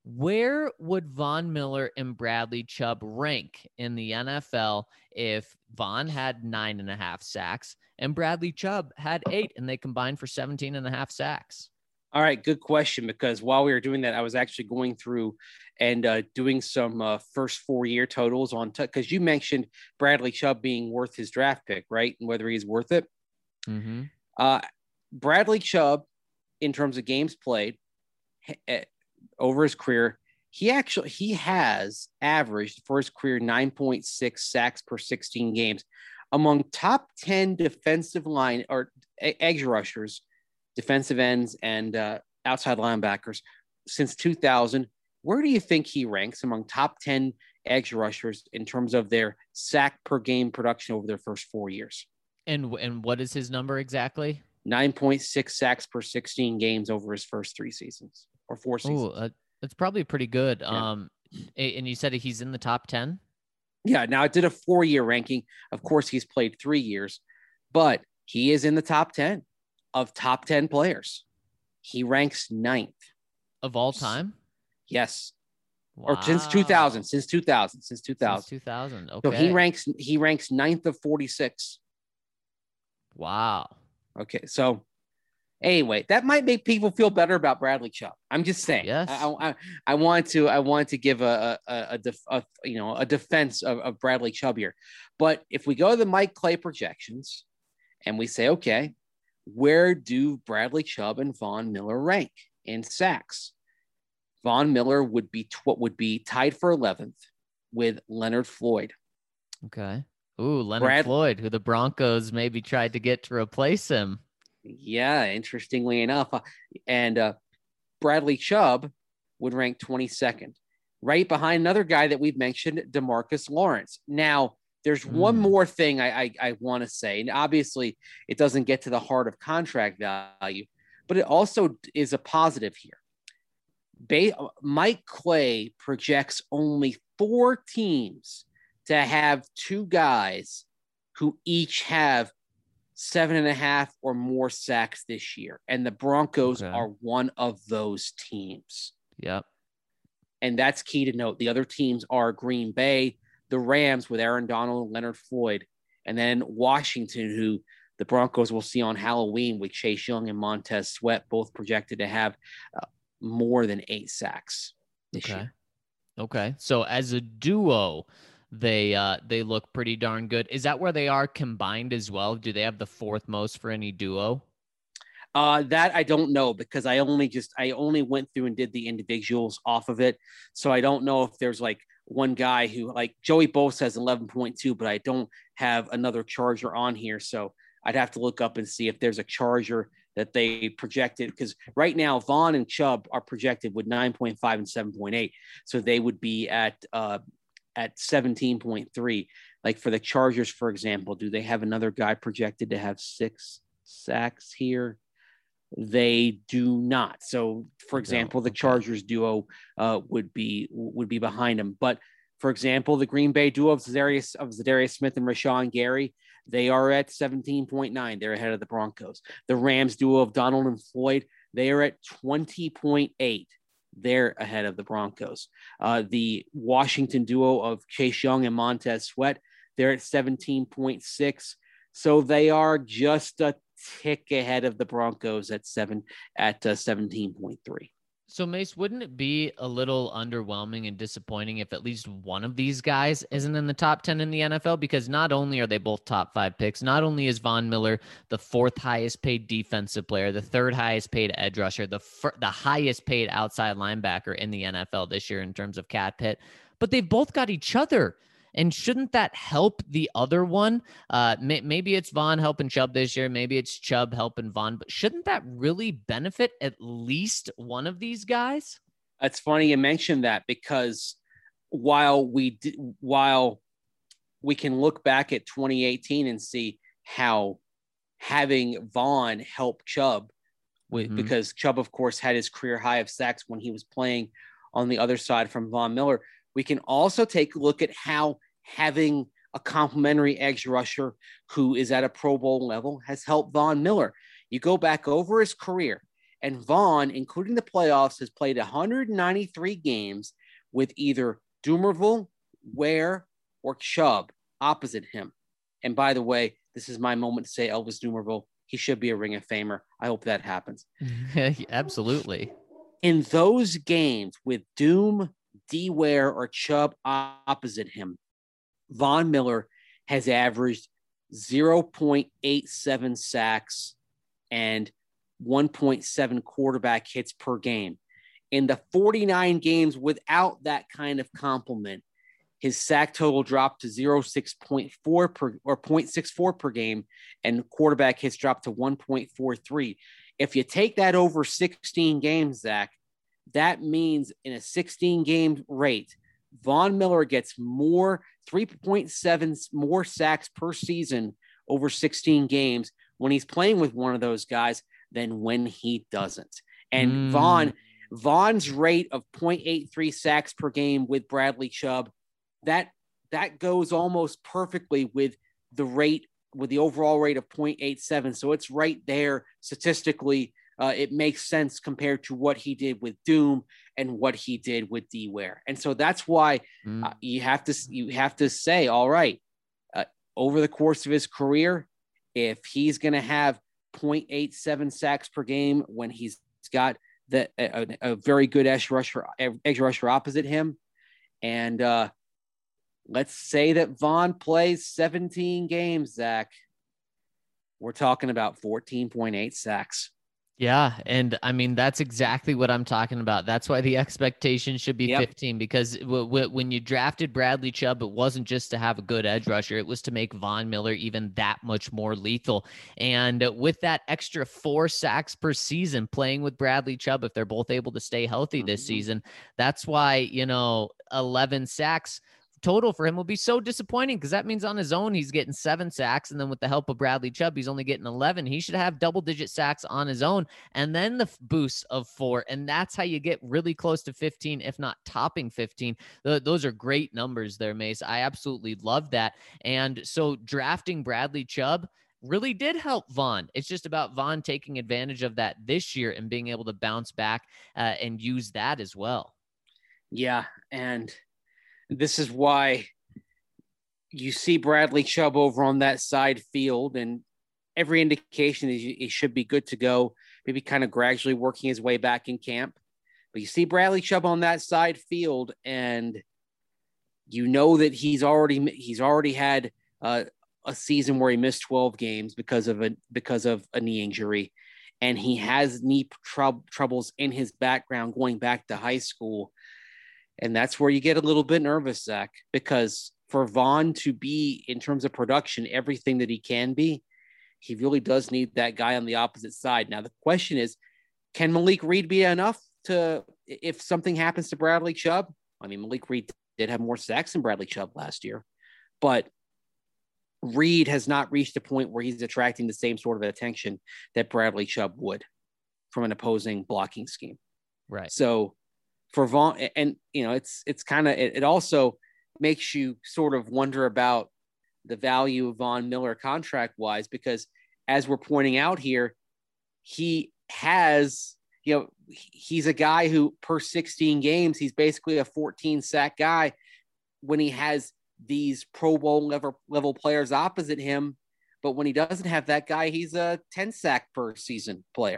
Where would Von Miller and Bradley Chubb rank in the N F L if Von had nine and a half sacks and Bradley Chubb had eight and they combined for seventeen and a half sacks? All right, good question, because while we were doing that, I was actually going through and uh, doing some uh, first four-year totals on because t- you mentioned Bradley Chubb being worth his draft pick, right? And whether he's worth it. Mm-hmm. Uh, Bradley Chubb, in terms of games played uh, over his career, he actually he has averaged for his career nine point six sacks per sixteen games among top ten defensive line or edge rushers, defensive ends, and uh, outside linebackers since two thousand. Where do you think he ranks among top ten edge rushers in terms of their sack per game production over their first four years? And and what is his number exactly? nine point six sacks per sixteen games over his first three seasons or four seasons. Oh, uh, that's probably pretty good. Yeah. Um, and you said he's in the top ten? Yeah. Now, I did a four-year ranking. Of course, he's played three years, but he is in the top ten of top ten players. He ranks ninth. Of all time? Yes. Wow. Or since two thousand, since two thousand, since two thousand. Since two thousand, okay. So he ranks, he ranks ninth of forty-six. Wow. Okay. So anyway, that might make people feel better about Bradley Chubb. I'm just saying. Yes. I, I, I want to, I want to give a, a, a, def, a you know, a defense of, of Bradley Chubb here. But if we go to the Mike Clay projections and we say, okay, where do Bradley Chubb and Von Miller rank in sacks? Von Miller would be what would be tied for eleventh with Leonard Floyd. Okay. Ooh, Leonard Brad, Floyd, who the Broncos maybe tried to get to replace him. Yeah, interestingly enough. And uh, Bradley Chubb would rank twenty-second, right behind another guy that we've mentioned, DeMarcus Lawrence. Now, there's mm. one more thing I, I, I want to say, and obviously it doesn't get to the heart of contract value, but it also is a positive here. Ba- Mike Clay projects only four teams to have two guys who each have seven and a half or more sacks this year. And the Broncos okay. are one of those teams. Yep. And that's key to note. The other teams are Green Bay, the Rams with Aaron Donald, Leonard Floyd, and then Washington, who the Broncos will see on Halloween with Chase Young and Montez Sweat, both projected to have uh, more than eight sacks this okay. year. Okay. So as a duo, they uh, they look pretty darn good. Is that where they are combined as well? Do they have the fourth most for any duo? Uh, that I don't know, because I only just I only went through and did the individuals off of it. So I don't know if there's like one guy who, like Joey Bosa has eleven point two, but I don't have another Charger on here. So I'd have to look up and see if there's a Charger that they projected, because right now Vaughn and Chubb are projected with nine point five and seven point eight. So they would be at uh, at seventeen point three. Like for the Chargers, for example, do they have another guy projected to have six sacks here? They do not. So, for example, the Chargers duo uh, would be would be behind them. But, for example, the Green Bay duo of Zadarius, of Zadarius Smith and Rashawn Gary, they are at seventeen point nine. They're ahead of the Broncos. The Rams duo of Donald and Floyd, they are at twenty point eight. They're ahead of the Broncos. Uh, the Washington duo of Chase Young and Montez Sweat, they're at seventeen point six. So they are just a tick ahead of the Broncos at seven at uh, seventeen point three. So Mace, wouldn't it be a little underwhelming and disappointing if at least one of these guys isn't in the top ten in the N F L? Because not only are they both top five picks, not only is Von Miller the fourth highest paid defensive player, the third highest paid edge rusher, the fir- the highest paid outside linebacker in the N F L this year in terms of cap hit, but they've both got each other. And shouldn't that help the other one? Uh, may, maybe it's Von helping Chubb this year. Maybe it's Chubb helping Von. But shouldn't that really benefit at least one of these guys? It's funny you mentioned that, because while we d- while we can look back at twenty eighteen and see how having Von help Chubb, with, mm-hmm. because Chubb, of course, had his career high of sacks when he was playing on the other side from Von Miller. We can also take a look at how having a complimentary edge rusher who is at a Pro Bowl level has helped Von Miller. You go back over his career, And Vaughn, including the playoffs, has played one hundred ninety-three games with either Dumervil, Ware, or Chubb opposite him. And by the way, this is my moment to say Elvis Dumervil. He should be a Ring of Famer. I hope that happens. Absolutely. In those games with Doom, D. Ware, or Chubb opposite him, Von Miller has averaged zero point eight seven sacks and one point seven quarterback hits per game. In the forty-nine games without that kind of complement, his sack total dropped to zero point six four per or zero point six four per game, and quarterback hits dropped to one point four three. If you take that over sixteen games, Zach, that means in a sixteen game rate, Von Miller gets more three point seven more sacks per season over sixteen games when he's playing with one of those guys than when he doesn't. And mm. Vaughn, Vaughn's rate of zero point eight three sacks per game with Bradley Chubb, that that goes almost perfectly with the rate, with the overall rate of zero point eight seven. So it's right there statistically. Uh, it makes sense compared to what he did with Doom and what he did with D. Ware. And so that's why mm. uh, you have to you have to say, all right, uh, over the course of his career, if he's going to have zero point eight seven sacks per game when he's got the, a, a very good edge rusher, edge rusher opposite him, and uh, let's say that Vaughn plays seventeen games, Zach, we're talking about fourteen point eight sacks. Yeah. And I mean, that's exactly what I'm talking about. That's why the expectation should be yep. fifteen, because w- w- when you drafted Bradley Chubb, it wasn't just to have a good edge rusher. It was to make Von Miller even that much more lethal. And with that extra four sacks per season playing with Bradley Chubb, if they're both able to stay healthy this mm-hmm. season, that's why, you know, eleven sacks total for him will be so disappointing, because that means on his own he's getting seven sacks, and then with the help of Bradley Chubb he's only getting eleven. He should have double digit sacks on his own, and then the boost of four, and that's how you get really close to fifteen, if not topping fifteen. Th- those are great numbers there, Mace. I absolutely love that. And so drafting Bradley Chubb really did help Vaughn. It's just about Vaughn taking advantage of that this year and being able to bounce back uh, and use that as well. Yeah, and this is why you see Bradley Chubb over on that side field, and every indication is he should be good to go, maybe kind of gradually working his way back in camp. But you see Bradley Chubb on that side field, and you know that he's already he's already had uh, a season where he missed twelve games because of a because of a knee injury, and he has knee trou- troubles in his background going back to high school. And that's where you get a little bit nervous, Zach, because for Vaughn to be, in terms of production, everything that he can be, he really does need that guy on the opposite side. Now, the question is, can Malik Reed be enough to, if something happens to Bradley Chubb? I mean, Malik Reed did have more sacks than Bradley Chubb last year, but Reed has not reached a point where he's attracting the same sort of attention that Bradley Chubb would from an opposing blocking scheme. Right. So, for Vaughn, and you know, it's it's kind of it, it also makes you sort of wonder about the value of Von Miller contract wise, because as we're pointing out here, he has, you know, he's a guy who per sixteen games, he's basically a fourteen sack guy when he has these Pro Bowl level level players opposite him. But when he doesn't have that guy, he's a ten sack per season player.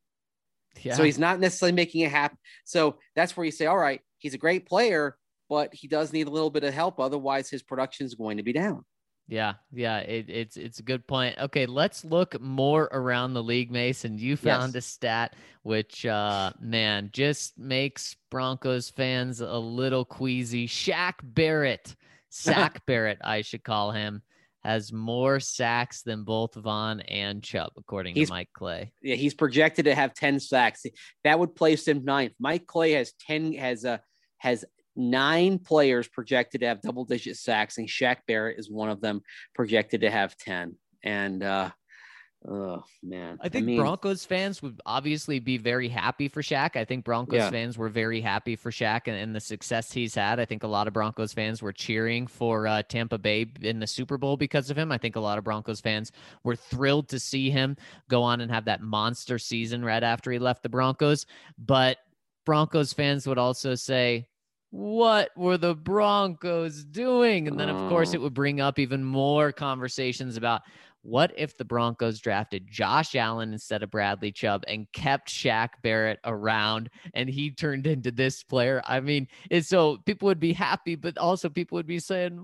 Yeah. So he's not necessarily making it happen. So that's where you say, all right, he's a great player, but he does need a little bit of help. Otherwise, his production is going to be down. Yeah, yeah, it, it's it's a good point. Okay, let's look more around the league, Mason. You found yes. a stat which, uh, man, just makes Broncos fans a little queasy. Shaq Barrett, Sack Barrett, I should call him, has more sacks than both Vaughn and Chubb, according he's, to Mike Clay. Yeah, he's projected to have ten sacks. That would place him ninth. Mike Clay has ten has a has nine players projected to have double digit sacks, and Shaq Barrett is one of them, projected to have ten. And uh, Oh man. I think I mean, Broncos fans would obviously be very happy for Shaq. I think Broncos Yeah. fans were very happy for Shaq and, and the success he's had. I think a lot of Broncos fans were cheering for uh, Tampa Bay in the Super Bowl because of him. I think a lot of Broncos fans were thrilled to see him go on and have that monster season right after he left the Broncos. But Broncos fans would also say, what were the Broncos doing? And then, of course, Oh. it would bring up even more conversations about what if the Broncos drafted Josh Allen instead of Bradley Chubb and kept Shaq Barrett around and he turned into this player? I mean, it's so people would be happy, but also people would be saying,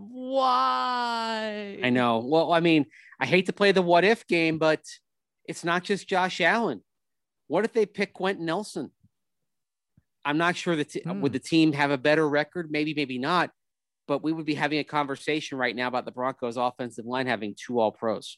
why? I know. Well, I mean, I hate to play the what if game, but it's not just Josh Allen. What if they pick Quentin Nelson? I'm not sure that t- Hmm. would the team have a better record? Maybe, maybe not. But we would be having a conversation right now about the Broncos offensive line having two all pros.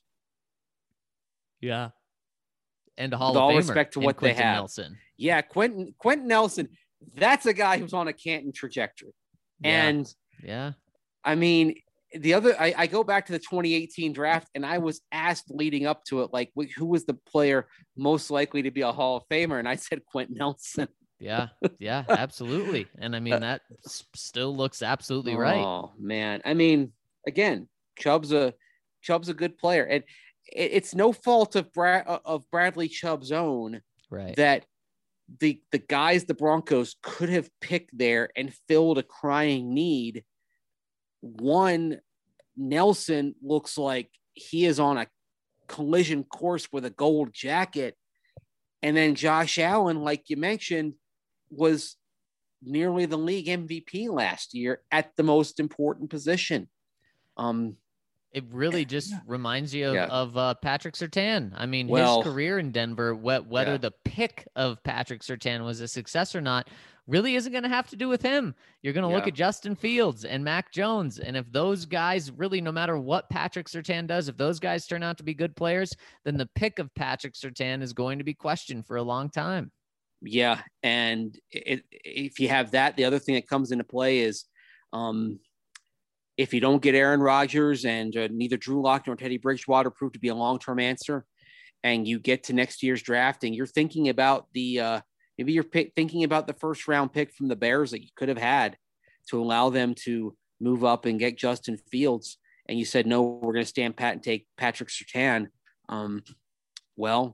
Yeah. And a Hall With of all Famer respect to in what they Quentin have. Nelson. Yeah, Quentin Quentin Nelson, that's a guy who's on a Canton trajectory. Yeah. And Yeah. I mean, the other, I, I go back to the twenty eighteen draft, and I was asked leading up to it, like, who was the player most likely to be a Hall of Famer? And I said Quentin Nelson. Yeah. Yeah, absolutely. And I mean, that s- still looks absolutely right. Oh man, I mean, again, Chubb's a Chubb's a good player, and it, it's no fault of Brad of Bradley Chubb's own Right. that the the guys the Broncos could have picked there and filled a crying need. One, Nelson looks like he is on a collision course with a gold jacket, and then Josh Allen, like you mentioned, was nearly the league M V P last year at the most important position. Um, It really just reminds you of, Yeah. of uh, Patrick Surtain. I mean, Well- his career in Denver, wh- whether Yeah. the pick of Patrick Surtain was a success or not, really isn't going to have to do with him. You're going to look Yeah. at Justin Fields and Mac Jones. And if those guys really, no matter what Patrick Surtain does, if those guys turn out to be good players, then the pick of Patrick Surtain is going to be questioned for a long time. yeah, and it, if you have that, the other thing that comes into play is um, if you don't get Aaron Rodgers and uh, neither Drew Lock nor Teddy Bridgewater prove to be a long-term answer, and you get to next year's draft and you're thinking about the uh, maybe you're pick, thinking about the first round pick from the Bears that you could have had to allow them to move up and get Justin Fields, and you said no, we're going to stand pat and take Patrick Surtain. Um, well,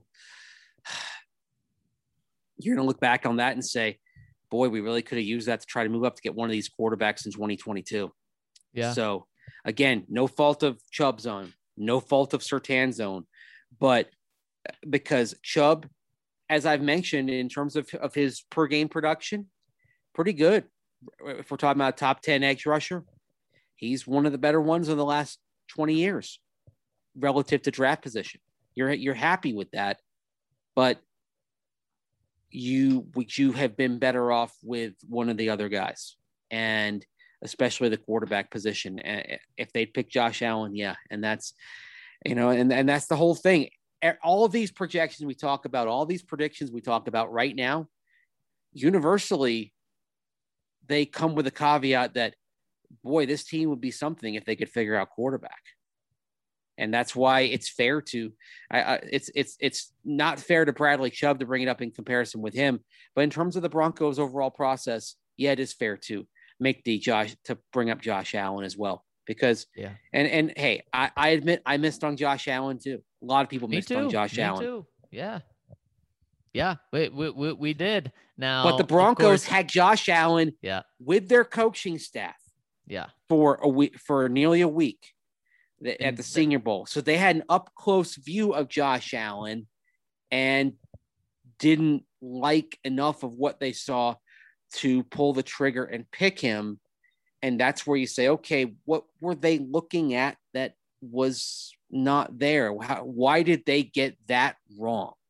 you're going to look back on that and say, boy, we really could have used that to try to move up to get one of these quarterbacks in twenty twenty-two. Yeah. So again, no fault of Chubb's own, no fault of Surtain's own, but because Chubb, as I've mentioned, in terms of, of his per game production, pretty good. If we're talking about a top ten edge rusher, he's one of the better ones in the last twenty years relative to draft position. You're, you're happy with that, but you would you have been better off with one of the other guys, and especially the quarterback position. If they'd pick Josh Allen, yeah, and that's you know, and and that's the whole thing. All of these projections we talk about, all these predictions we talk about right now, universally, they come with a caveat that, boy, this team would be something if they could figure out quarterback. And that's why it's fair to, I, I, it's it's it's not fair to Bradley Chubb to bring it up in comparison with him. But in terms of the Broncos' overall process, yeah, it is fair to make the Josh to bring up Josh Allen as well. Because Yeah. and and hey, I, I admit I missed on Josh Allen too. A lot of people Me missed too. on Josh Me Allen. too. Yeah. Yeah. We, we, we, we did. Now, But the of Broncos course- had Josh Allen Yeah. with their coaching staff Yeah. for a week, for nearly a week at And the the- Senior Bowl. So they had an up close view of Josh Allen and didn't like enough of what they saw to pull the trigger and pick him. And that's where you say, okay, what were they looking at that was not there? How, why did they get that wrong?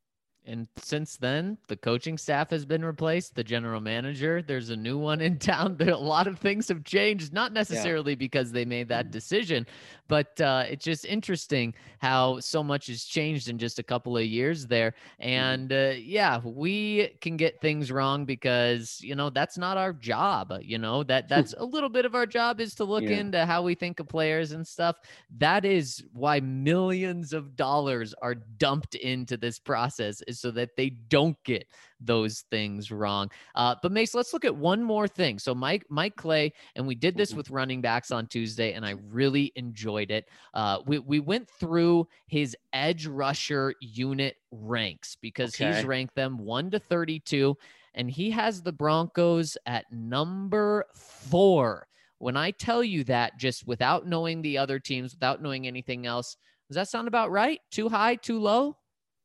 And since then, the coaching staff has been replaced, the general manager, there's a new one in town. There, a lot of things have changed, not necessarily yeah. because they made that decision, but uh, it's just interesting how so much has changed in just a couple of years there. And uh, yeah, we can get things wrong because, you know, that's not our job. You know, that that's a little bit of our job is to look yeah. into how we think of players and stuff. That is why millions of dollars are dumped into this process, is so that they don't get those things wrong. Uh, but Mace, let's look at one more thing. So Mike, Mike Clay, and we did this with running backs on Tuesday, and I really enjoyed it. Uh, we, we went through his edge rusher unit ranks because okay. he's ranked them one to thirty-two, and he has the Broncos at number four. When I tell you that, just without knowing the other teams, without knowing anything else, does that sound about right? Too high, too low?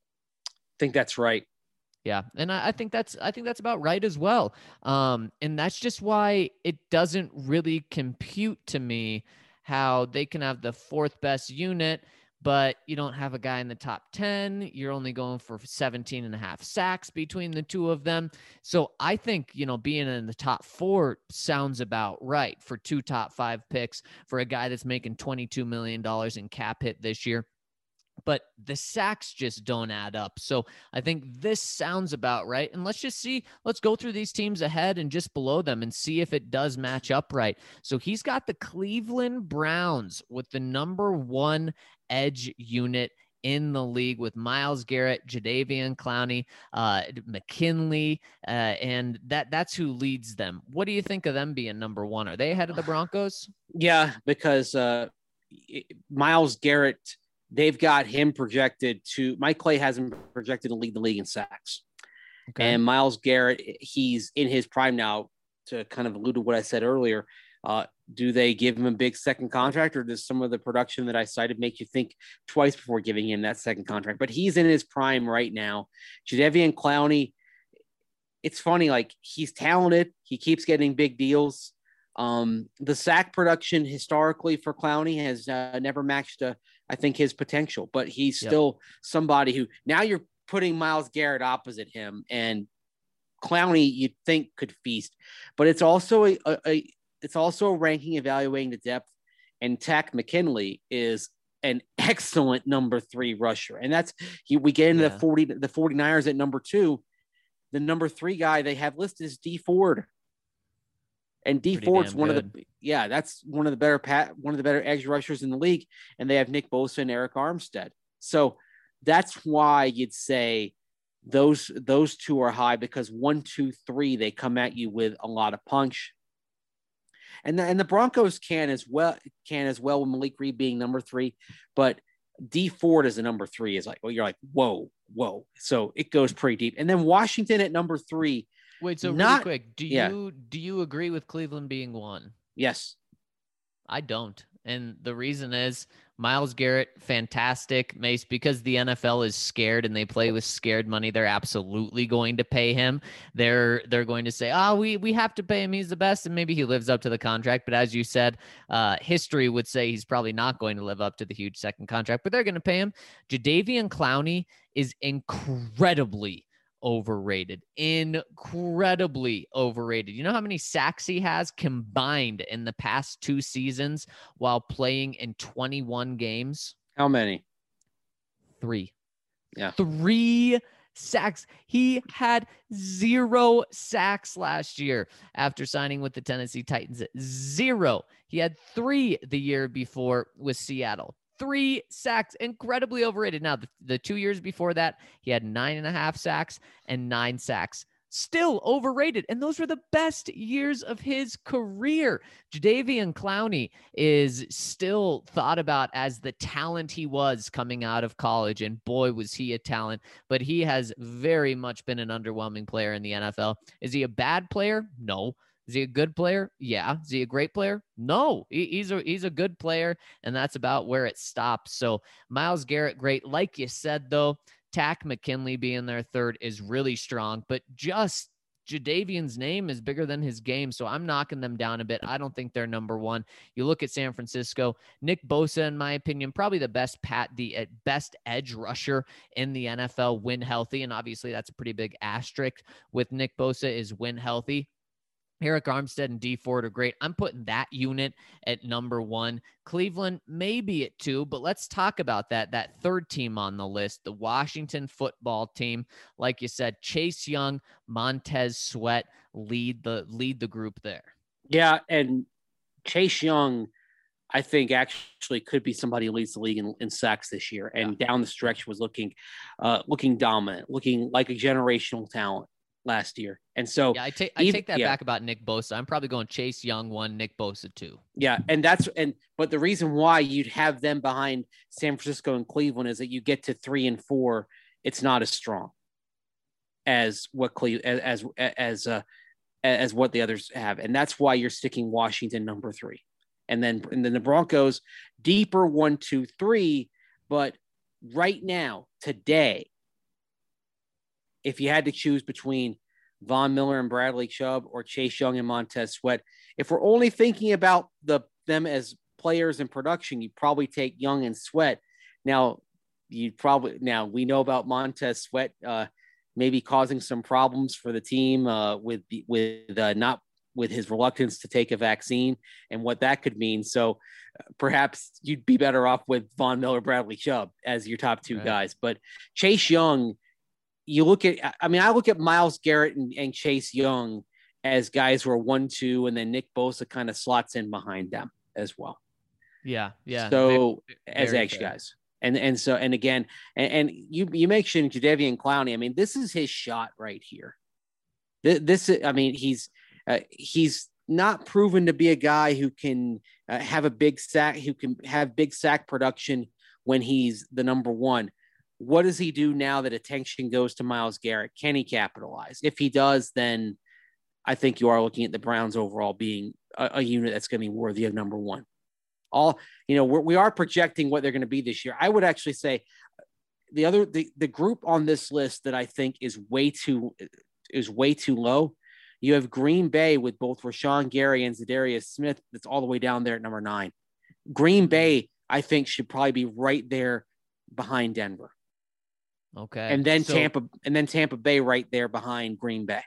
I think that's right. Yeah. And I, I think that's, I think that's about right as well. Um, and that's just why it doesn't really compute to me how they can have the fourth best unit, but you don't have a guy in the top ten. You're only going for seventeen and a half sacks between the two of them. So I think, you know, being in the top four sounds about right for two top five picks for a guy that's making twenty-two million dollars in cap hit this year. But the sacks just don't add up. So I think this sounds about right. And let's just see, let's go through these teams ahead and just below them and see if it does match up right. So he's got the Cleveland Browns with the number one edge unit in the league with Myles Garrett, Jadeveon Clowney, uh, McKinley, uh, and that that's who leads them. What do you think of them being number one? Are they ahead of the Broncos? Yeah, because uh, Myles Garrett, they've got him projected to, Mike Clay has him projected to lead the league in sacks. Okay. And Myles Garrett, he's in his prime now, to kind of allude to what I said earlier. Uh, do they give him a big second contract, or does some of the production that I cited make you think twice before giving him that second contract? But he's in his prime right now. Jadeveon Clowney, it's funny, like he's talented. He keeps getting big deals. Um, the sack production historically for Clowney has uh, never matched, uh, I think, his potential, but he's still yep. somebody who, now you're putting Myles Garrett opposite him, and Clowney you'd think could feast, but it's also a, a, a it's also a ranking evaluating the depth, and Takk McKinley is an excellent number three rusher. And that's, he, we get into yeah. the forty, the 49ers at number two, the number three guy they have listed is D Ford. And D Pretty Ford's one good. of the, yeah, that's one of the better pat, one of the better edge rushers in the league. And they have Nick Bosa and Eric Armstead. So that's why you'd say those, those two are high, because one, two, three, they come at you with a lot of punch. And the, and the Broncos can as well, can as well with Malik Reed being number three, but D Ford as a number three is like, well, you're like, whoa, whoa. So it goes pretty deep. And then Washington at number three. Wait, so not, really quick, do yeah. you do you agree with Cleveland being one? Yes. I don't. And the reason is Myles Garrett, fantastic, Mace, because the N F L is scared and they play with scared money. They're absolutely going to pay him. They're they're going to say, oh, we, we have to pay him. He's the best. And maybe he lives up to the contract. But as you said, uh, history would say he's probably not going to live up to the huge second contract, but they're going to pay him. Jadeveon Clowney is incredibly overrated, incredibly overrated. You know how many sacks he has combined in the past two seasons while playing in twenty-one games? How many? Three. Yeah. Three sacks. He had zero sacks last year after signing with the Tennessee Titans. Zero. He had three the year before with Seattle. Three sacks, incredibly overrated. Now, the, the two years before that, he had nine and a half sacks and nine sacks. Still overrated. And those were the best years of his career. Jadeveon Clowney is still thought about as the talent he was coming out of college. And boy, was he a talent. But he has very much been an underwhelming player in the N F L. Is he a bad player? No. Is he a good player? Yeah. Is he a great player? No, he, he's a, he's a good player, and that's about where it stops. So Myles Garrett, great. Like you said, though, Takk McKinley being their third is really strong, but just, Jadeveon's name is bigger than his game, so I'm knocking them down a bit. I don't think they're number one. You look at San Francisco, Nick Bosa, in my opinion, probably the best pat, the best edge rusher in the N F L when healthy, and obviously that's a pretty big asterisk with Nick Bosa is when healthy. Eric Armstead and Dee Ford are great. I'm putting that unit at number one. Cleveland maybe at two, but let's talk about that. That third team on the list, the Washington football team. Like you said, Chase Young, Montez Sweat lead the lead the group there. Yeah, and Chase Young, I think actually could be somebody who leads the league in, in sacks this year, and yeah. down the stretch was looking, uh, looking dominant, looking like a generational talent last year. And so yeah, I take I even, take that yeah. back about Nick Bosa. I'm probably going Chase Young one, Nick Bosa two. Yeah, and that's and but the reason why you'd have them behind San Francisco and Cleveland is that you get to three and four, it's not as strong as what Cle as as as uh, as what the others have, and that's why you're sticking Washington number three, and then and then the Broncos deeper one, two, three. But right now, today, if you had to choose between Von Miller and Bradley Chubb or Chase Young and Montez Sweat, if we're only thinking about the them as players in production, you'd probably take Young and Sweat. Now, you'd probably now we know about Montez Sweat uh, maybe causing some problems for the team uh, with with uh, not with his reluctance to take a vaccine and what that could mean. So uh, perhaps you'd be better off with Von Miller, Bradley Chubb as your top two right. guys. But Chase Young, you look at, I mean, I look at Myles Garrett and, and Chase Young as guys who are one, two, and then Nick Bosa kind of slots in behind them as well. Yeah. Yeah. So very, as edge guys. And, and so, and again, and, and you, you mentioned Jadeveon Clowney. I mean, this is his shot right here. This, this I mean, he's, uh, he's not proven to be a guy who can uh, have a big sack, who can have big sack production when he's the number one. What does he do now that attention goes to Myles Garrett? Can he capitalize? If he does, then I think you are looking at the Browns overall being a, a unit that's going to be worthy of number one. All, you know, we're, we are projecting what they're going to be this year. I would actually say the other, the, the group on this list that I think is way too, is way too low. You have Green Bay with both Rashawn Gary and Zadarius Smith. That's all the way down there at number nine. Green Bay, I think, should probably be right there behind Denver. Okay. And then so, Tampa, and then Tampa Bay right there behind Green Bay.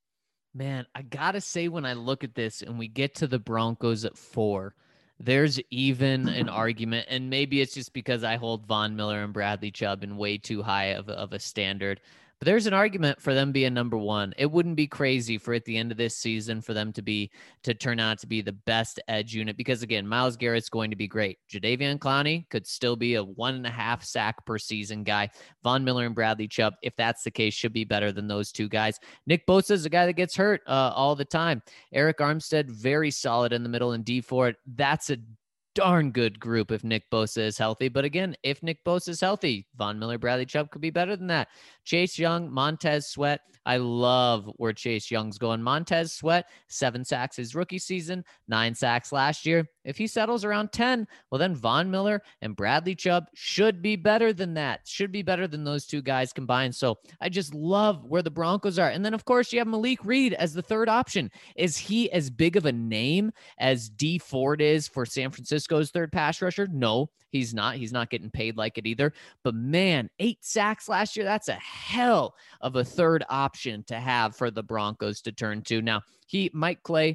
Man, I gotta say, when I look at this and we get to the Broncos at four, there's even an argument, and maybe it's just because I hold Von Miller and Bradley Chubb in way too high of a, of a standard. But there's an argument for them being number one. It wouldn't be crazy for at the end of this season for them to be to turn out to be the best edge unit because, again, Myles Garrett's going to be great. Jadeveon Clowney could still be a one and a half sack per season guy. Von Miller and Bradley Chubb, if that's the case, should be better than those two guys. Nick Bosa is a guy that gets hurt uh, all the time. Eric Armstead, very solid in the middle, and Dee Ford, that's a darn good group if Nick Bosa is healthy. But again, if Nick Bosa is healthy, Von Miller, Bradley Chubb could be better than that. Chase Young, Montez Sweat. I love where Chase Young's going. Montez Sweat, seven sacks his rookie season, nine sacks last year. If he settles around ten, well, then Von Miller and Bradley Chubb should be better than that, should be better than those two guys combined. So I just love where the Broncos are. And then, of course, you have Malik Reed as the third option. Is he as big of a name as Dee Ford is for San Francisco's third pass rusher? No, he's not. He's not getting paid like it either. But, man, eight sacks last year, that's a hell of a third option to have for the Broncos to turn to. Now, he, Mike Clay,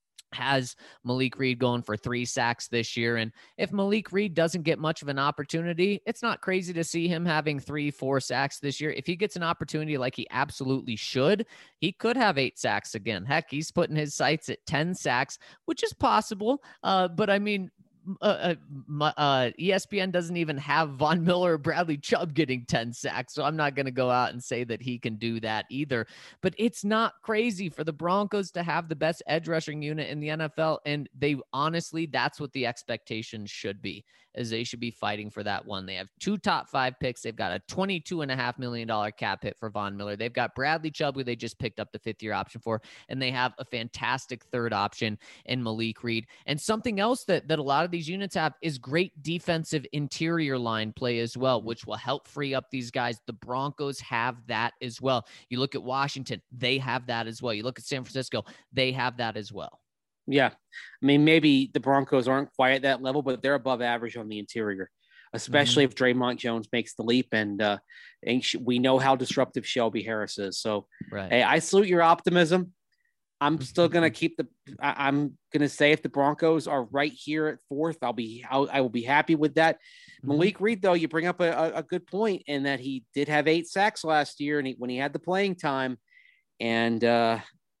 has Malik Reed going for three sacks this year. And if Malik Reed doesn't get much of an opportunity, it's not crazy to see him having three, four sacks this year. If he gets an opportunity like he absolutely should, he could have eight sacks again. Heck, he's putting his sights at ten sacks, which is possible. Uh, but I mean, Uh, uh, uh, E S P N doesn't even have Von Miller or Bradley Chubb getting ten sacks, so I'm not going to go out and say that he can do that either. But it's not crazy for the Broncos to have the best edge rushing unit in the N F L, and they honestly, that's what the expectations should be, is they should be fighting for that one. They have two top five picks. They've got a twenty-two point five million dollars cap hit for Von Miller. They've got Bradley Chubb, who they just picked up the fifth-year option for, and they have a fantastic third option in Malik Reed. And something else that, that a lot of these units have is great defensive interior line play as well, which will help free up these guys. The Broncos have that as well. You look at Washington, they have that as well. You look at San Francisco, they have that as well. Yeah. I mean, maybe the Broncos aren't quite at that level, but they're above average on the interior, especially mm-hmm. if Draymond Jones makes the leap. And, uh, and we know how disruptive Shelby Harris is. So, right. Hey, I salute your optimism. I'm still going to keep the, I, I'm going to say if the Broncos are right here at fourth, I'll be, I'll, I will be happy with that. Mm-hmm. Malik Reed, though, you bring up a, a, a good point in that he did have eight sacks last year and he, when he had the playing time, and, uh,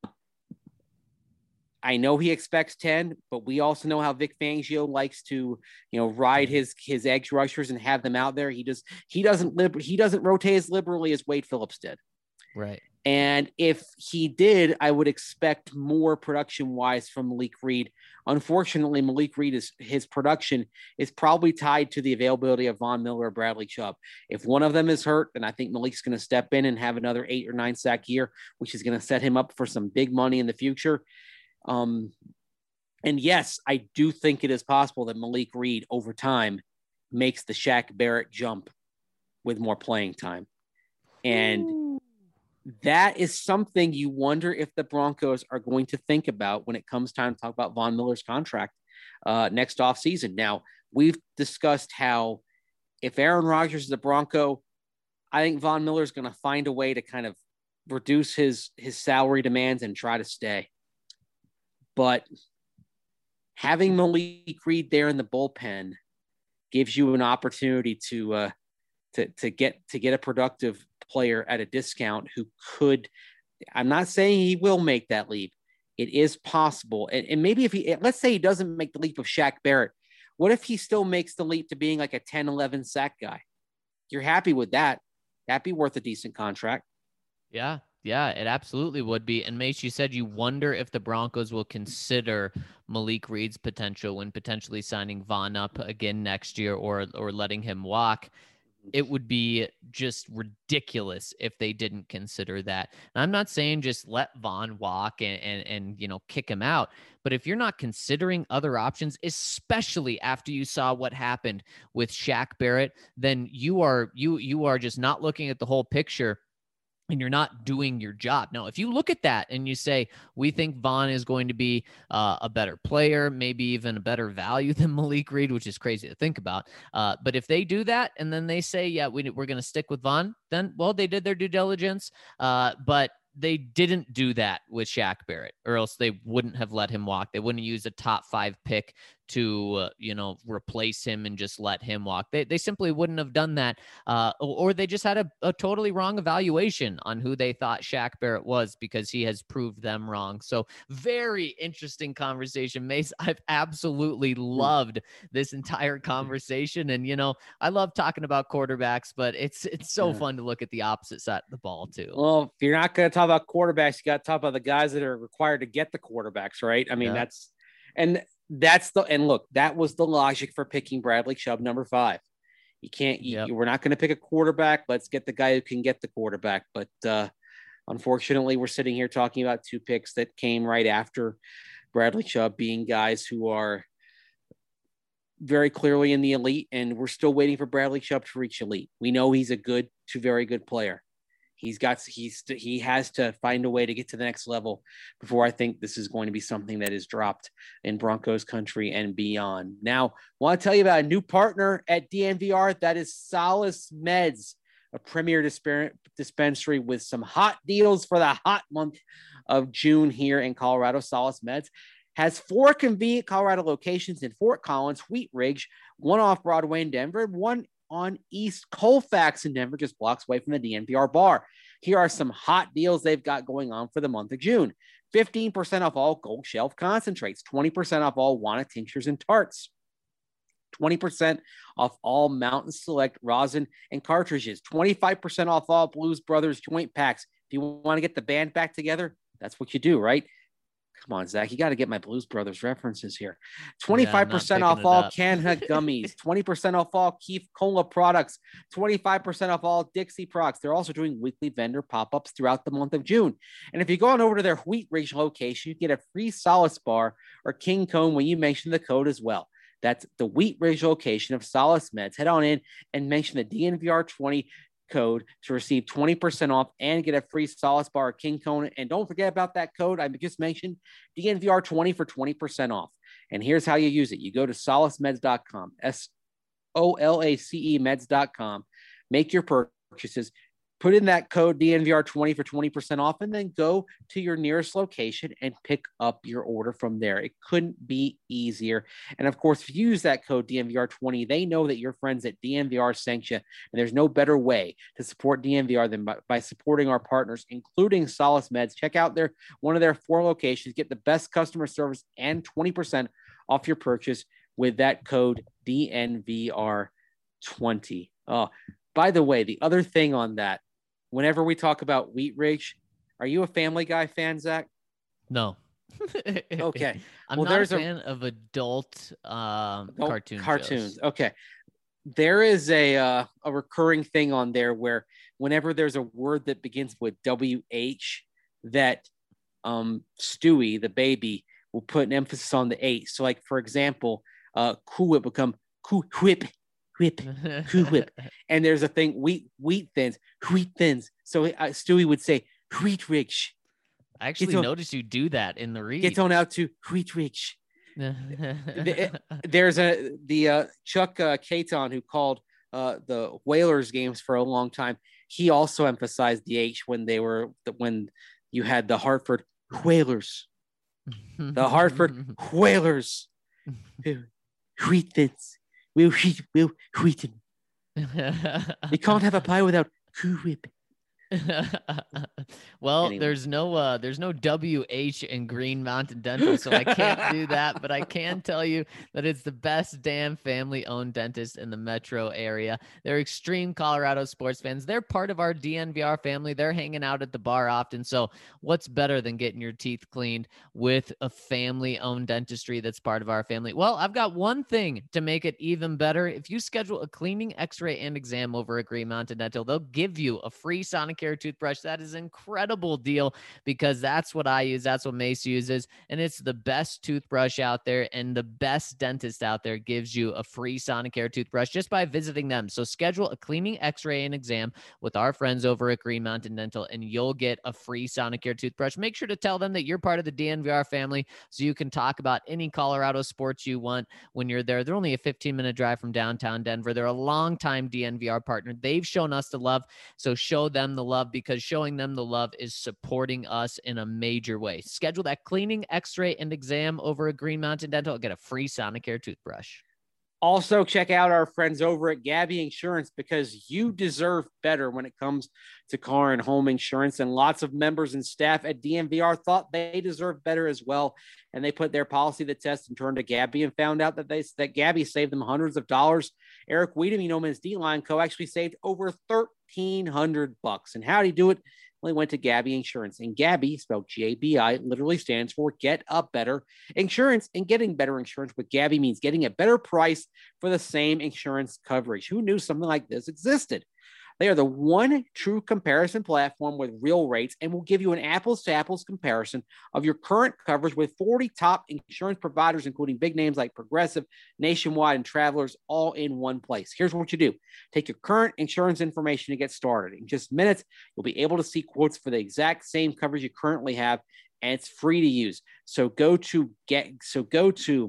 I know he expects ten, but we also know how Vic Fangio likes to, you know, ride his his edge rushers and have them out there. He just he doesn't liber- he doesn't rotate as liberally as Wade Phillips did. Right. And if he did, I would expect more production wise from Malik Reed. Unfortunately, Malik Reed is his production is probably tied to the availability of Von Miller or Bradley Chubb. If one of them is hurt, then I think Malik's going to step in and have another eight or nine sack year, which is going to set him up for some big money in the future. Um, and yes, I do think it is possible that Malik Reed over time makes the Shaq Barrett jump with more playing time. And Ooh. That is something you wonder if the Broncos are going to think about when it comes time to talk about Von Miller's contract uh, next offseason. Now, we've discussed how if Aaron Rodgers is a Bronco, I think Von Miller is going to find a way to kind of reduce his, his salary demands and try to stay. But having Malik Reed there in the bullpen gives you an opportunity to uh, to to get to get a productive player at a discount who could. I'm not saying he will make that leap. It is possible, and, and maybe if he let's say he doesn't make the leap of Shaq Barrett, what if he still makes the leap to being like a ten, eleven sack guy? You're happy with that? That'd be worth a decent contract. Yeah. Yeah, it absolutely would be. And Mace, you said you wonder if the Broncos will consider Malik Reed's potential when potentially signing Von up again next year or or letting him walk. It would be just ridiculous if they didn't consider that. And I'm not saying just let Von walk and, and, and, you know, kick him out. But if you're not considering other options, especially after you saw what happened with Shaq Barrett, then you are you you are just not looking at the whole picture. And you're not doing your job. Now, if you look at that and you say, we think Von is going to be uh, a better player, maybe even a better value than Malik Reed, which is crazy to think about. Uh, but if they do that and then they say, yeah, we, we're going to stick with Von, then, well, they did their due diligence. Uh, but they didn't do that with Shaq Barrett, or else they wouldn't have let him walk. They wouldn't use a top five pick to, uh, you know, replace him and just let him walk. They they simply wouldn't have done that. Uh, or, or they just had a, a totally wrong evaluation on who they thought Shaq Barrett was because he has proved them wrong. So very interesting conversation, Mace. I've absolutely loved this entire conversation. And, you know, I love talking about quarterbacks, but it's, it's so yeah. fun to look at the opposite side of the ball too. Well, if you're not going to talk about quarterbacks, you got to talk about the guys that are required to get the quarterbacks, right? I mean, yeah. that's, and that's the, and look, that was the logic for picking Bradley Chubb, number five. You can't, you, yep. we're not going to pick a quarterback. Let's get the guy who can get the quarterback. But uh, unfortunately, we're sitting here talking about two picks that came right after Bradley Chubb, being guys who are very clearly in the elite, and we're still waiting for Bradley Chubb to reach elite. We know he's a good to very good player. He's got, he's, he has to find a way to get to the next level before I think this is going to be something that is dropped in Broncos country and beyond. Now, I want to tell you about a new partner at D N V R. That is Solace Meds, a premier disp- dispensary with some hot deals for the hot month of June here in Colorado. Solace Meds has four convenient Colorado locations in Fort Collins, Wheat Ridge, one off Broadway in Denver, one on East Colfax in Denver, just blocks away from the D N V R bar. Here are some hot deals they've got going on for the month of June. fifteen percent off all Gold Shelf concentrates, twenty percent off all Wana tinctures and tarts, twenty percent off all Mountain Select rosin and cartridges, twenty-five percent off all Blues Brothers joint packs. If you want to get the band back together, that's what you do, right? Come on, Zach, you got to get my Blues Brothers references here. twenty-five percent yeah, off all Canha gummies, twenty percent off all Keef Cola products, twenty-five percent off all Dixie products. They're also doing weekly vendor pop-ups throughout the month of June. And if you go on over to their Wheat Ridge location, you get a free Solace bar or King Cone when you mention the code as well. That's the Wheat Ridge location of Solace Meds. Head on in and mention the D N V R twenty code to receive twenty percent off and get a free Solace bar or King Cone. And don't forget about that code I just mentioned, D N V R twenty for twenty percent off. And here's how you use it. You go to solace meds dot com, S O L A C E meds dot com, make your purchases, put in that code D N V R twenty for twenty percent off, and then go to your nearest location and pick up your order from there. It couldn't be easier. And of course, if you use that code D N V R twenty, they know that your friends at D N V R sent you, and there's no better way to support D N V R than by, by supporting our partners, including Solace Meds. Check out their one of their four locations, get the best customer service and twenty percent off your purchase with that code D N V R twenty. Oh, by the way, the other thing on that, whenever we talk about Wheat Ridge, are you a Family Guy fan, Zach? No. Okay. I'm well, not there's a fan a, of adult, um, adult cartoon cartoons. shows. Okay. There is a uh, a recurring thing on there where whenever there's a word that begins with W H, that um, Stewie, the baby, will put an emphasis on the H. So, like, for example, uh, Cool Whip become Cool Whip. Whip, Cool Whip, and there's a thing wheat wheat thins, wheat thins. So uh, Stewie would say Wheat Ridge. I actually Get on- noticed you do that in the read. Get on out to Wheat Ridge. There's a the uh, Chuck uh, Caton, who called uh, the Whalers games for a long time. He also emphasized the H when they were when you had the Hartford Whalers, the Hartford Whalers, wheat thins. We'll wheat, we'll wheaten. You can't have a pie without Cool Whip. Well, Anyway. there's no uh there's no W H in Green Mountain Dental, so I can't do that, but I can tell you that it's the best damn family owned dentist in the metro area. They're extreme Colorado sports fans. They're part of our D N V R family. They're hanging out at the bar often. So what's better than getting your teeth cleaned with a family owned dentistry that's part of our family? Well, I've got one thing to make it even better. If you schedule a cleaning, x-ray, and exam over at Green Mountain Dental, they'll give you a free Sonicare toothbrush. That is an incredible deal because that's what I use. That's what Mace uses. And it's the best toothbrush out there, and the best dentist out there gives you a free Sonicare toothbrush just by visiting them. So schedule a cleaning, x-ray, and exam with our friends over at Green Mountain Dental, and you'll get a free Sonicare toothbrush. Make sure to tell them that you're part of the D N V R family so you can talk about any Colorado sports you want when you're there. They're only a fifteen minute drive from downtown Denver. They're a longtime D N V R partner. They've shown us the love, so show them the love, because showing them the love is supporting us in a major way. Schedule that cleaning, x-ray, and exam over at Green Mountain Dental. Get a free Sonicare toothbrush. Also, check out our friends over at Gabby Insurance, because you deserve better when it comes to car and home insurance. And lots of members and staff at D N V R thought they deserved better as well. And they put their policy to the test and turned to Gabby and found out that they that Gabby saved them hundreds of dollars. Eric Weedham, you know, his D-Line Co. actually saved over thirteen hundred bucks. And how did he do it? Well, he went to Gabby Insurance. And Gabby, spelled G A B I, literally stands for Get a Better Insurance. And getting better insurance with Gabby means getting a better price for the same insurance coverage. Who knew something like this existed? They are the one true comparison platform with real rates, and will give you an apples to apples comparison of your current coverage with forty top insurance providers, including big names like Progressive, Nationwide, and Travelers, all in one place. Here's what you do. Take your current insurance information to get started. In just minutes, you'll be able to see quotes for the exact same coverage you currently have, and it's free to use. So go to get so go to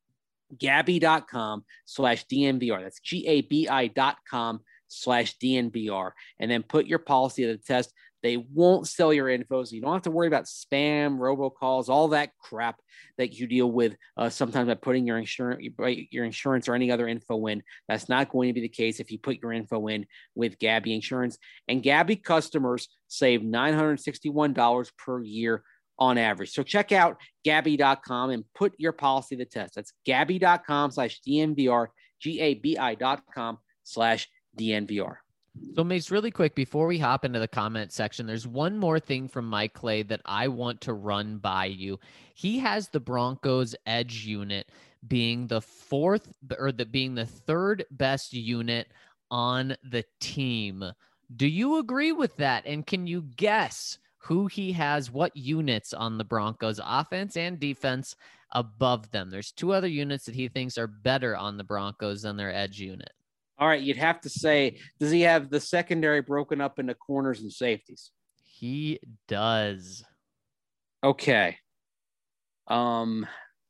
Gabby.com slash DNVR. That's G-A-B-I dot com slash DNVR. And then put your policy to the test. They won't sell your info, so you don't have to worry about spam, robocalls, all that crap that you deal with uh, sometimes by putting your insurance, your insurance or any other info in. That's not going to be the case if you put your info in with Gabby Insurance. And Gabby customers save nine hundred sixty-one dollars per year on average. So check out Gabby dot com and put your policy to the test. That's Gabby.com slash DNVR, G-A-B-I dot com slash DNVR. So, Mace, really quick, before we hop into the comment section, there's one more thing from Mike Clay that I want to run by you. He has the Broncos edge unit being the fourth or the being the third best unit on the team. Do you agree with that? And can you guess who he has, what units on the Broncos offense and defense above them. There's two other units that he thinks are better on the Broncos than their edge unit. All right, you'd have to say, does he have the secondary broken up into corners and safeties? He does. Okay. Um,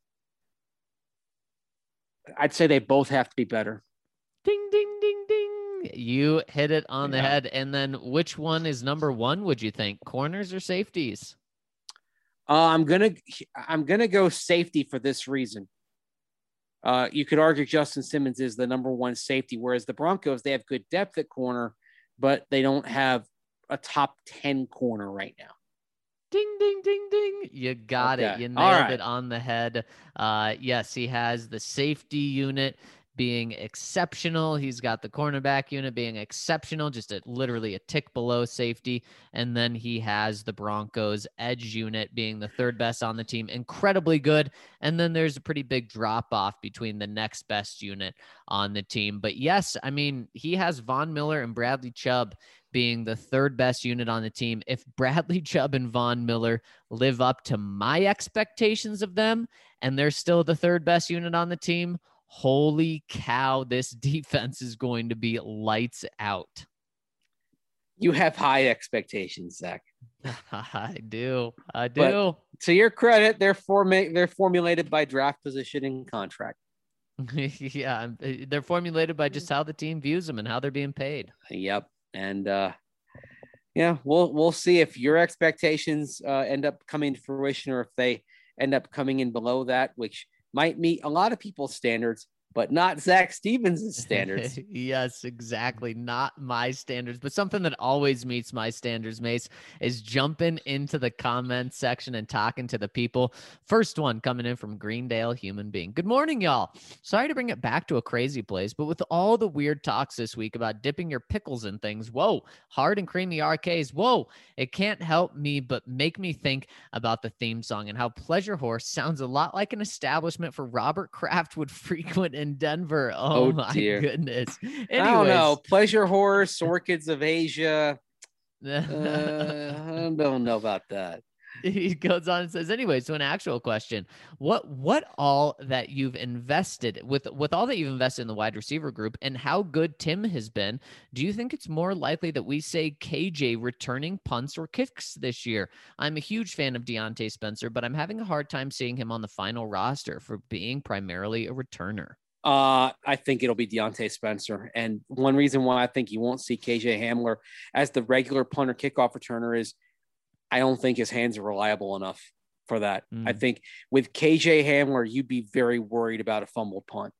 I'd say they both have to be better. Ding, ding, ding, ding. You hit it on Yeah. the head. And then which one is number one, would you think? Corners or safeties? Uh, I'm gonna I'm gonna go safety for this reason. Uh, you could argue Justin Simmons is the number one safety, whereas the Broncos, they have good depth at corner, but they don't have a top ten corner right now. Ding, ding, ding, ding. You got Okay. it. You All nailed right. it on the head. Uh, yes, he has the safety unit being exceptional. He's got the cornerback unit being exceptional, just a, literally a tick below safety. And then he has the Broncos edge unit being the third best on the team, incredibly good. And then there's a pretty big drop off between the next best unit on the team. But yes, I mean, he has Von Miller and Bradley Chubb being the third best unit on the team. If Bradley Chubb and Von Miller live up to my expectations of them, and they're still the third best unit on the team, holy cow, this defense is going to be lights out. You have high expectations, Zach. I do. I do. But to your credit, they're forma- they're formulated by draft position and contract. Yeah, they're formulated by just how the team views them and how they're being paid. Yep. And uh, yeah, we'll we'll see if your expectations uh, end up coming to fruition or if they end up coming in below that, which might meet a lot of people's standards, but not Zach Stevens' standards. Yes, exactly. Not my standards, but something that always meets my standards, Mace, is jumping into the comment section and talking to the people. First one coming in from Greendale Human Being. Good morning, y'all. Sorry to bring it back to a crazy place, but with all the weird talks this week about dipping your pickles in things, whoa, hard and creamy R Ks, whoa, it can't help me but make me think about the theme song and how Pleasure Horse sounds a lot like an establishment for Robert Kraft would frequent in Denver. Oh, Oh, my dear. goodness. I don't know. Anyways, Pleasure Horse, Orchids of Asia. Uh, I don't know about that. he goes on and says, anyway, so an actual question, what what all that you've invested with with all that you've invested in the wide receiver group and how good Tim has been, do you think it's more likely that we say K J returning punts or kicks this year? I'm a huge fan of Deontay Spencer, but I'm having a hard time seeing him on the final roster for being primarily a returner. Uh, I think it'll be Deontay Spencer. And one reason why I think you won't see K J Hamler as the regular punter kickoff returner is I don't think his hands are reliable enough for that. Mm. I think with K J Hamler, you'd be very worried about a fumbled punt.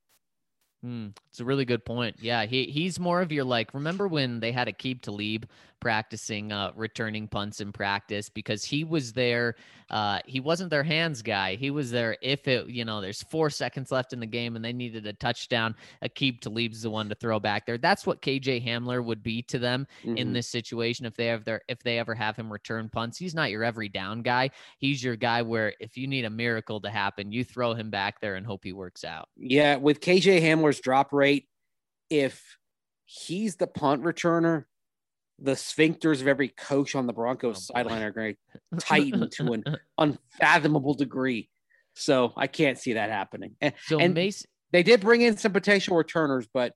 Mm, it's a really good point. Yeah, he he's more of your like, remember when they had Aqib Talib practicing uh, returning punts in practice because he was there. Uh, he wasn't their hands guy. He was there if it, you know, there's four seconds left in the game and they needed a touchdown. Aqib Talib's the one to throw back there. That's what K J Hamler would be to them Mhm. in this situation. If they have their, if they ever have him return punts, he's not your every down guy. He's your guy where if you need a miracle to happen, you throw him back there and hope he works out. Yeah, with K J Hamler's drop rate, if he's the punt returner, the sphincters of every coach on the Broncos Oh, boy. sideline are going to tighten to an unfathomable degree. So I can't see that happening. And, So and Mace, they did bring in some potential returners, but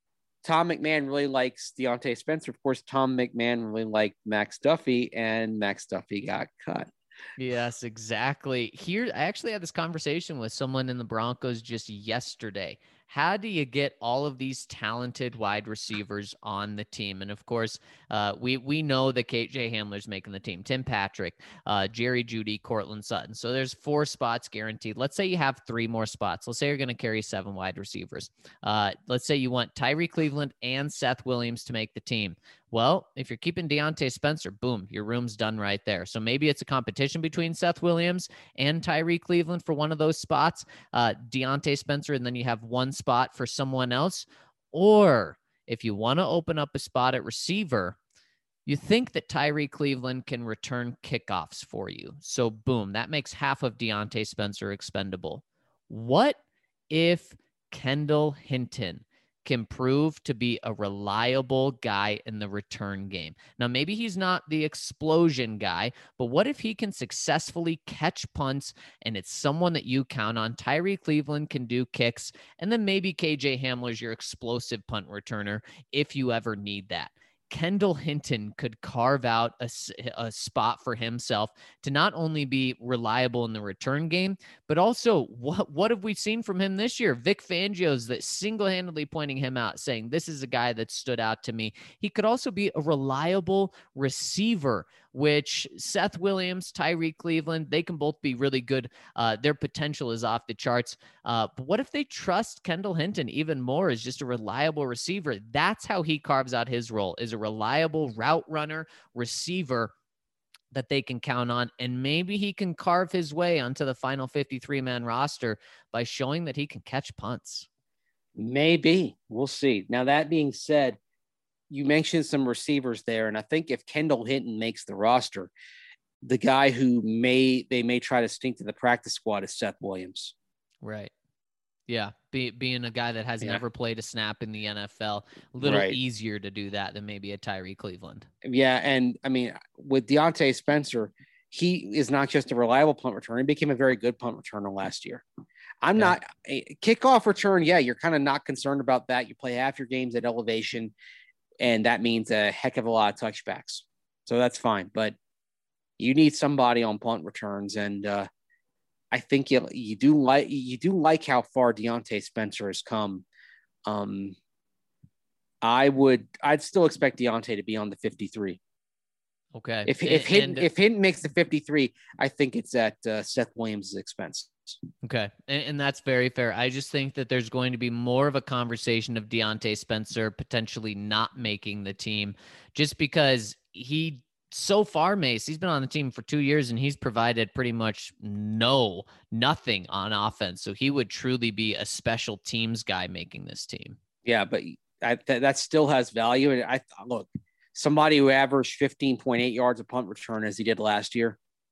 Tom McMahon really likes Deontay Spencer. Of course, Tom McMahon really liked Max Duffy, and Max Duffy got cut. yes, exactly. Here, I actually had this conversation with someone in the Broncos just yesterday. How do you get all of these talented wide receivers on the team? And of course, uh, we we know that K J Hamler's making the team. Tim Patrick, uh, Jerry Jeudy, Cortland Sutton. So there's four spots guaranteed. Let's say you have three more spots. Let's say you're going to carry seven wide receivers. Uh, let's say you want Tyree Cleveland and Seth Williams to make the team. Well, if you're keeping Deontay Spencer, boom, your room's done right there. So maybe it's a competition between Seth Williams and Tyree Cleveland for one of those spots, uh, Deontay Spencer, and then you have one spot for someone else. Or if you want to open up a spot at receiver, you think that Tyree Cleveland can return kickoffs for you. So boom, that makes half of Deontay Spencer expendable. What if Kendall Hinton can prove to be a reliable guy in the return game. Now, maybe he's not the explosion guy, but what if he can successfully catch punts and it's someone that you count on? Tyree Cleveland can do kicks, and then maybe K J Hamler's your explosive punt returner if you ever need that. Kendall Hinton could carve out a, a spot for himself to not only be reliable in the return game, but also what, what have we seen from him this year? Vic Fangio's that single-handedly pointing him out, saying this is a guy that stood out to me. He could also be a reliable receiver, which Seth Williams, Tyree Cleveland, they can both be really good. Uh, their potential is off the charts. Uh, but what if they trust Kendall Hinton even more as just a reliable receiver? That's how he carves out his role, is a reliable route runner, receiver that they can count on. And maybe he can carve his way onto the final fifty-three man roster by showing that he can catch punts. Maybe. We'll see. Now, that being said, you mentioned some receivers there, and I think if Kendall Hinton makes the roster, the guy who may they may try to stink to the practice squad is Seth Williams. Right. Yeah, be, being a guy that has yeah. never played a snap in the N F L, a little right. easier to do that than maybe a Tyree Cleveland. Yeah, and I mean, with Deontay Spencer, he is not just a reliable punt returner. He became a very good punt returner last year. I'm yeah. not a kickoff return. Yeah, you're kind of not concerned about that. You play half your games at elevation, and that means a heck of a lot of touchbacks. So that's fine. But you need somebody on punt returns, and uh, I think you you do like you do like how far Deontay Spencer has come. Um, I would I'd still expect Deontay to be on the fifty-three. Okay. If if and, Hinton, if Hinton makes the fifty-three, I think it's at uh, Seth Williams' expense. Okay. And, and that's very fair. I just think that there's going to be more of a conversation of Deontay Spencer potentially not making the team, just because he so far, Mace, he's been on the team for two years and he's provided pretty much no, nothing on offense. So he would truly be a special teams guy making this team. Yeah, but I, th- that still has value. And I look, somebody who averaged fifteen point eight yards a punt return as he did last year,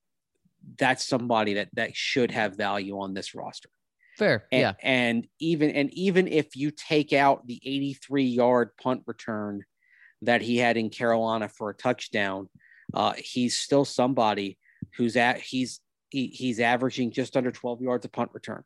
that's somebody that, that should have value on this roster. Fair. And, yeah. And even, and even if you take out the eighty-three yard punt return that he had in Carolina for a touchdown, uh, he's still somebody who's at, he's, he, he's averaging just under twelve yards a punt return.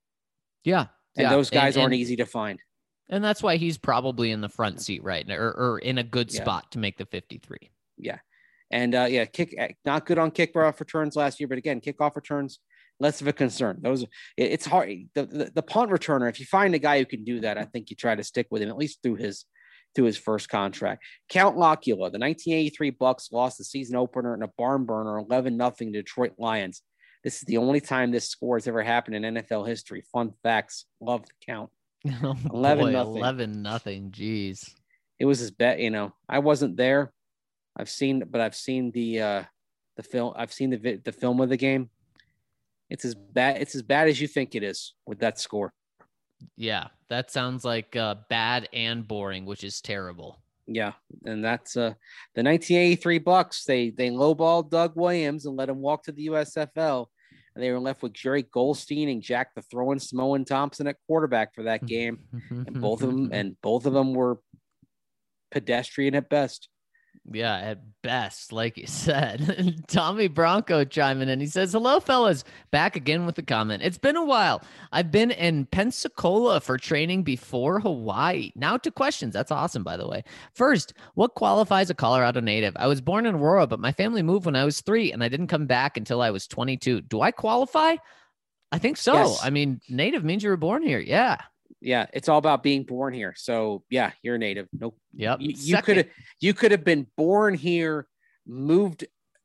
Yeah. And yeah. those guys and, aren't and, easy to find. And that's why he's probably in the front seat right now, or, or in a good yeah. spot to make the fifty-three. Yeah. And uh, yeah, kick not good on kickoff returns last year, but again, kickoff returns, less of a concern. Those it, it's hard. The, the the punt returner, if you find a guy who can do that, I think you try to stick with him at least through his through his first contract. Count Locula, the nineteen eighty-three Bucks lost the season opener in a barn burner, eleven nothing to Detroit Lions. This is the only time this score has ever happened in N F L history. Fun facts. Love the count. Oh, eleven nothing. Eleven nothing. Jeez. It was his bet. You know, I wasn't there. I've seen, but I've seen the uh, the film. I've seen the the film of the game. It's as bad. It's as bad as you think it is with that score. Yeah, that sounds like uh, bad and boring, which is terrible. Yeah, and that's uh, the nineteen eighty-three Bucks. They they lowballed Doug Williams and let him walk to the U S F L, and they were left with Jerry Goldstein and Jack the Throwing Samoan Thompson at quarterback for that game, and both of them and both of them were pedestrian at best. Yeah, at best, like you said. Tommy Bronco chiming in. He says, hello, fellas. Back again with the comment. It's been a while. I've been in Pensacola for training before Hawaii. Now to questions. That's awesome, by the way. First, what qualifies a Colorado native? I was born in Aurora, but my family moved when I was three, and I didn't come back until I was twenty-two. Do I qualify? I think so. Yes. I mean, native means you were born here. Yeah. Yeah, it's all about being born here. So yeah, you're a native. Nope. Yep. You could have you could have been born here, moved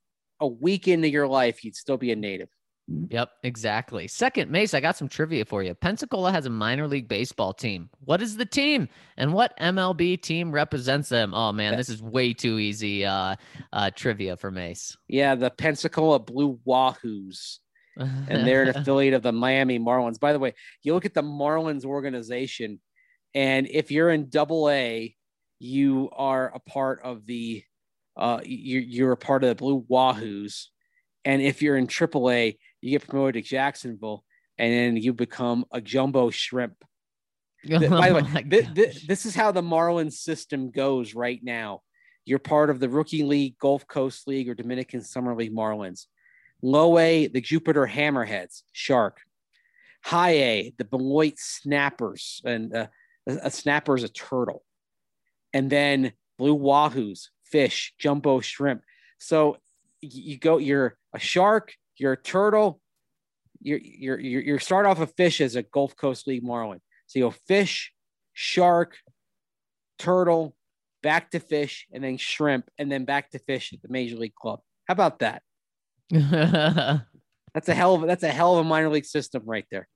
a week into your life, you'd still be a native. Yep, exactly. Second, Mace, I got some trivia for you. Pensacola has a minor league baseball team. What is the team, and what M L B team represents them? Oh man, this is way too easy uh, uh, trivia for Mace. Yeah, the Pensacola Blue Wahoos. And they're an affiliate of the Miami Marlins. By the way, you look at the Marlins organization, and if you're in Double A, you are a part of the uh, you're, you're a part of the Blue Wahoos. And if you're in Triple A, you get promoted to Jacksonville, and then you become a jumbo shrimp. The- by the Oh way, my th- th- gosh. this is how the Marlins system goes right now. You're part of the Rookie League, Gulf Coast League, or Dominican Summer League Marlins. Low A, the Jupiter Hammerheads, Shark. High A, the Beloit Snappers, and uh, a, a snapper is a turtle. And then Blue Wahoos, fish, jumbo shrimp. So you go, you're a shark, you're a turtle, you're you're you're, you're start off a fish as a Gulf Coast League Marlin. So you go fish, shark, turtle, back to fish, and then shrimp, and then back to fish at the Major League Club. How about that? That's a hell of a, that's a hell of a minor league system right there.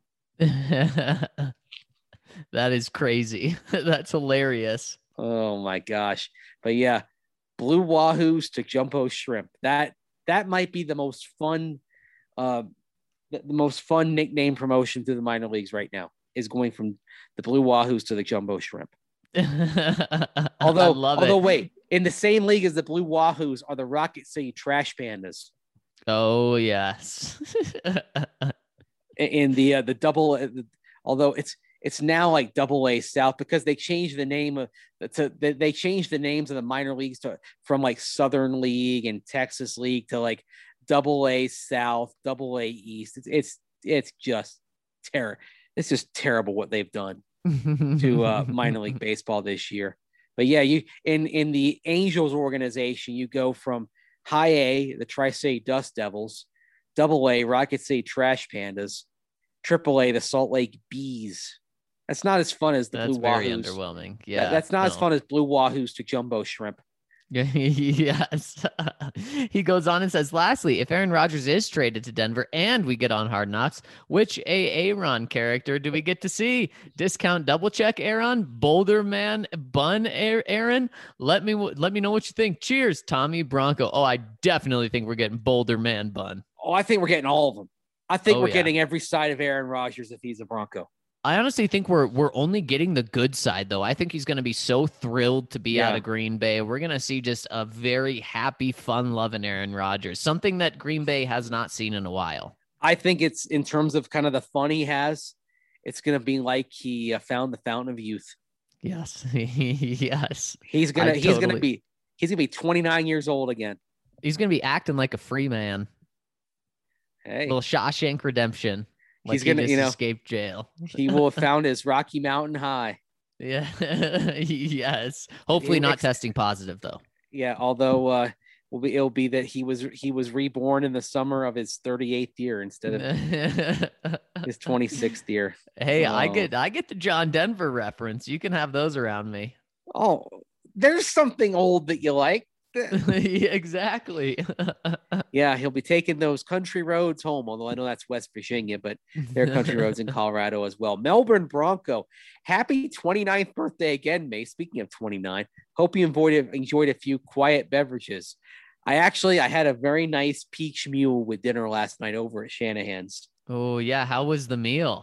That is crazy. That's hilarious. Oh my gosh. But yeah, Blue Wahoos to Jumbo Shrimp. That that might be the most fun uh the, the most fun nickname promotion through the minor leagues right now is going from the Blue Wahoos to the Jumbo Shrimp. Although, I love although it. wait, in the same league as the Blue Wahoos are the Rocket City Trash Pandas. Oh yes. In the uh, the double, uh, although it's it's now like Double A South because they changed the name of to they, they changed the names of the minor leagues to from like Southern League and Texas League to like Double A South, Double A East. It's it's it's just terror. It's just terrible what they've done to uh, minor league baseball this year. But yeah, you in in the Angels organization, you go from High A, the Tri-State Dust Devils, Double A, Rocket City Trash Pandas, Triple A, the Salt Lake Bees. That's not as fun as the That's Blue very Wahoos. underwhelming. Yeah, That- that's not as no. fun as Blue Wahoos to Jumbo Shrimp. Yes. He goes on and says, lastly, if Aaron Rodgers is traded to Denver and we get on Hard Knocks, which A Aaron character do we get to see? Discount double check Aaron, Boulder Man Bun Aaron. Let me let me know what you think. Cheers, Tommy Bronco. Oh, I definitely think we're getting Boulder Man Bun. Oh, I think we're getting all of them. I think Oh, we're yeah. getting every side of Aaron Rodgers if he's a Bronco. I honestly think we're we're only getting the good side, though. I think he's going to be so thrilled to be Yeah. out of Green Bay. We're going to see just a very happy, fun-loving Aaron Rodgers, something that Green Bay has not seen in a while. I think it's in terms of kind of the fun he has, it's going to be like he uh, found the fountain of youth. Yes, yes. He's gonna I he's gonna totally- be he's gonna be twenty-nine years old again. He's going to be acting like a free man. Hey, Little Shawshank Redemption. Like He's gonna, he just you know- escaped jail. he will have found his Rocky Mountain High. Yeah, yes. Hopefully He not ex- testing positive though. Yeah, although uh, will be it'll be that he was he was reborn in the summer of his thirty-eighth year instead of his twenty-sixth year. Hey, I Oh. get I get the John Denver reference. You can have those around me. Oh, there's something old that you like. Yeah, exactly. Yeah, he'll be taking those country roads home, although I know that's West Virginia, but there are country roads in Colorado as well. Melbourne Bronco, happy twenty-ninth birthday again, May. Speaking of twenty-nine, hope you enjoyed, enjoyed a few quiet beverages. I actually, I had a very nice peach mule with dinner last night over at Shanahan's. Oh yeah, how was the meal?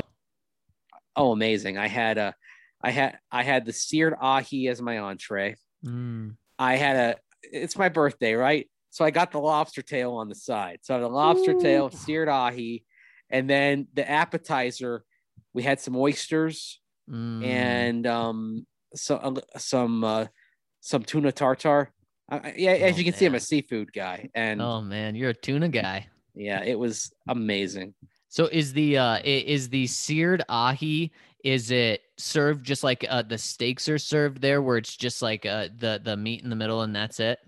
Oh, amazing. I had a, I had, I had the seared ahi as my entree. Mm. I had a, it's my birthday, right? So I got the lobster tail on the side. So the lobster Ooh. tail, seared ahi, and then the appetizer, we had some oysters Mm. and um some some uh, some tuna tartare. Uh, yeah, as Oh, you can see, I'm a man. seafood guy, and Oh man, you're a tuna guy. yeah, it was amazing. So is the uh i- is the seared ahi, is it served just like uh the steaks are served there where it's just like uh the the meat in the middle and that's it?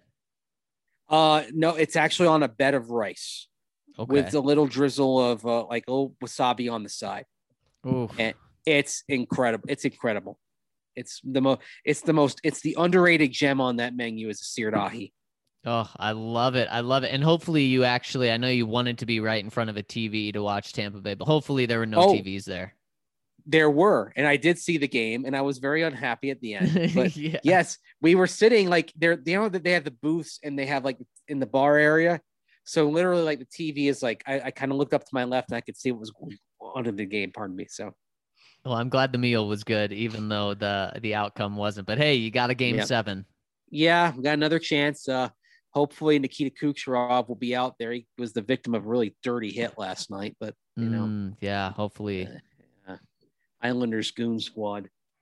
Uh, no, it's actually on a bed of rice Okay. with a little drizzle of uh, like a little wasabi on the side. Oof. and- It's incredible. It's incredible. It's the most. It's the most. It's the underrated gem on that menu is a seared ahi. Oh, I love it. I love it. And hopefully you actually, I know you wanted to be right in front of a T V to watch Tampa Bay, but hopefully there were no Oh. T Vs there. There were, and I did see the game, and I was very unhappy at the end. But yeah. yes, we were sitting like they're you know that they have the booths and they have like in the bar area. So literally, like the T V is like I, I kind of looked up to my left and I could see what was going on in the game. Pardon me. So Well, I'm glad the meal was good, even though the the outcome wasn't. But hey, you got a game Yeah. seven. yeah, we got another chance. Uh, hopefully Nikita Kucherov will be out there. He was the victim of a really dirty hit last night, but you know, Mm, yeah, hopefully. uh, Islanders goon squad.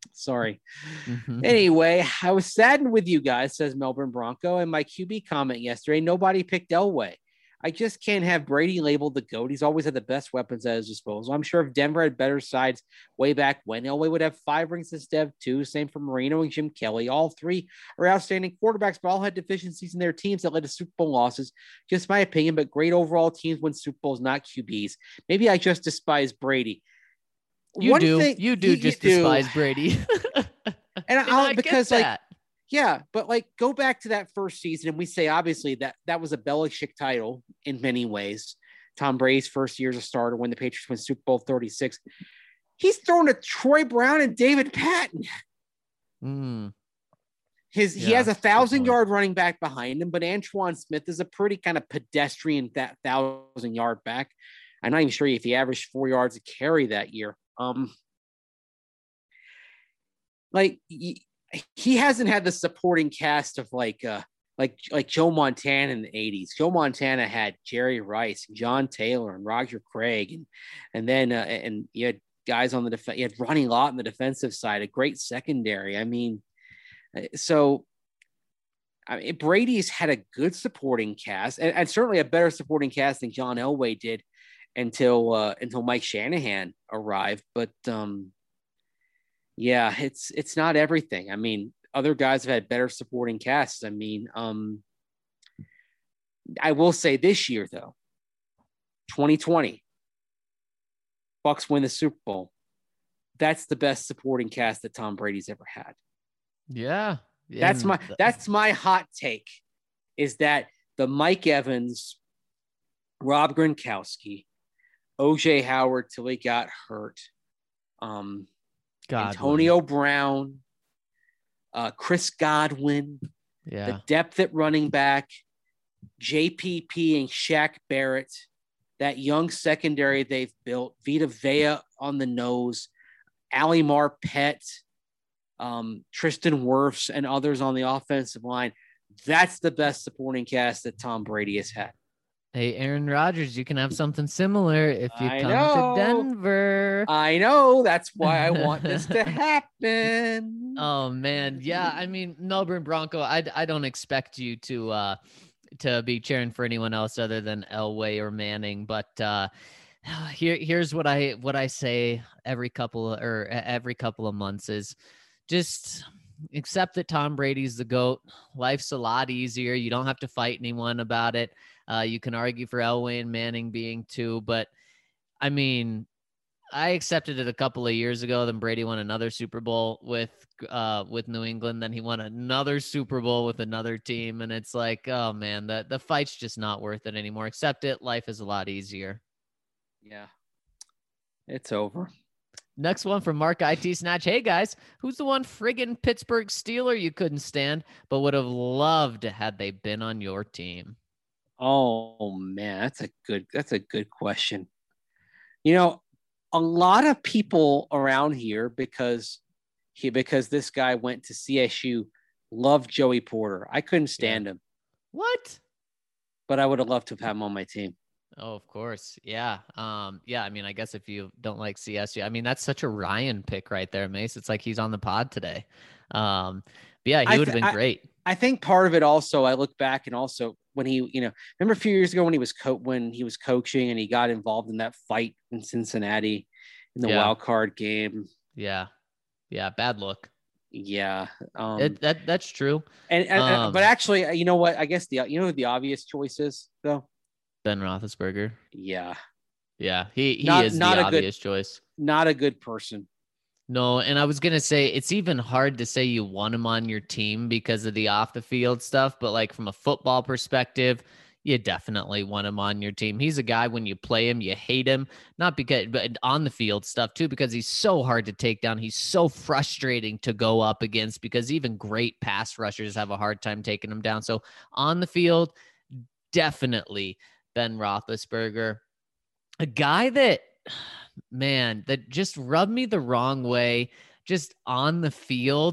Sorry. Mm-hmm. Anyway, I was saddened with you guys, says Melbourne Bronco. And my Q B comment yesterday, nobody picked Elway. I just can't have Brady labeled the GOAT. He's always had the best weapons at his disposal. I'm sure if Denver had better sides way back when, Elway would have five rings instead of two. Same for Marino and Jim Kelly. All three are outstanding quarterbacks, but all had deficiencies in their teams that led to Super Bowl losses. Just my opinion, but great overall teams win Super Bowls, not Q Bs. Maybe I just despise Brady. You One do. thing, you do you, just you do. despise Brady. and and I'll, I because get like, that. yeah, but like go back to that first season and we say, obviously that that was a Belichick title in many ways. Tom Brady's first year as a starter when the Patriots win Super Bowl thirty-six. He's thrown to Troy Brown and David Patton. Mm. His Yeah, he has a thousand yard running back behind him, but Antoine Smith is a pretty kind of pedestrian that thousand yard back. I'm not even sure if he averaged four yards a carry that year. Um, like he, he hasn't had the supporting cast of like uh like like Joe Montana in the eighties. Joe Montana had Jerry Rice, John Taylor, and Roger Craig, and and then uh, and you had guys on the defense. You had Ronnie Lott on the defensive side, a great secondary. I mean, so I mean, Brady's had a good supporting cast, and, and certainly a better supporting cast than John Elway did until uh, until Mike Shanahan arrived. But um, yeah, it's it's not everything. I mean, other guys have had better supporting casts. I mean, um, I will say this year though, twenty twenty, Bucks win the Super Bowl. That's the best supporting cast that Tom Brady's ever had. Yeah. That's my that's my hot take, is that the Mike Evans, Rob Gronkowski, O J Howard till he got hurt, um, Godwin. Antonio Brown, uh, Chris Godwin, yeah, the depth at running back, J P P and Shaq Barrett, that young secondary they've built, Vita Vea on the nose, Ali Marpet, um, Tristan Wirfs, and others on the offensive line. That's the best supporting cast that Tom Brady has had. Hey, Aaron Rodgers, you can have something similar if you I come know. to Denver. I know. That's why I want this to happen. Oh man, yeah. I mean, Melbourne Bronco. I I don't expect you to uh to be cheering for anyone else other than Elway or Manning, but uh, here here's what I what I say every couple of, or every couple of months is just accept that Tom Brady's the GOAT. Life's a lot easier. You don't have to fight anyone about it. Uh, you can argue for Elway and Manning being two, but I mean, I accepted it a couple of years ago. Then Brady won another Super Bowl with uh, with New England. Then he won another Super Bowl with another team, and it's like, oh man, the the fight's just not worth it anymore. Accept it. Life is a lot easier. Yeah, it's over. Next one from Mark I T Snatch. Hey guys, who's the one friggin' Pittsburgh Steeler you couldn't stand but would have loved had they been on your team? Oh man, that's a good that's a good question. You know, a lot of people around here, because he because this guy went to C S U, loved Joey Porter. I couldn't stand Yeah. him. What? But I would have loved to have had him on my team. Oh, of course. Yeah. Um, yeah. I mean, I guess if you don't like C S U, I mean, that's such a Ryan pick right there, Mace. It's like he's on the pod today. Um, but yeah, he I would have th- been I, great. I think part of it also, I look back and also when he, you know, remember a few years ago when he was co- when he was coaching and he got involved in that fight in Cincinnati in the Yeah. wild card game. Yeah. Yeah. Bad look. Yeah. Um, It, that That's true. and, and um, but actually, you know what? I guess the you know who the obvious choice is though. Ben Roethlisberger. Yeah. Yeah. He, he Not- is not the a good- obvious choice. Not a good person. No, and I was going to say, it's even hard to say you want him on your team because of the off the field stuff. But like from a football perspective, you definitely want him on your team. He's a guy, when you play him, you hate him, not because, but on the field stuff too, because he's so hard to take down. He's so frustrating to go up against because even great pass rushers have a hard time taking him down. So on the field, definitely Ben Roethlisberger, a guy that, man, that just rubbed me the wrong way just on the field.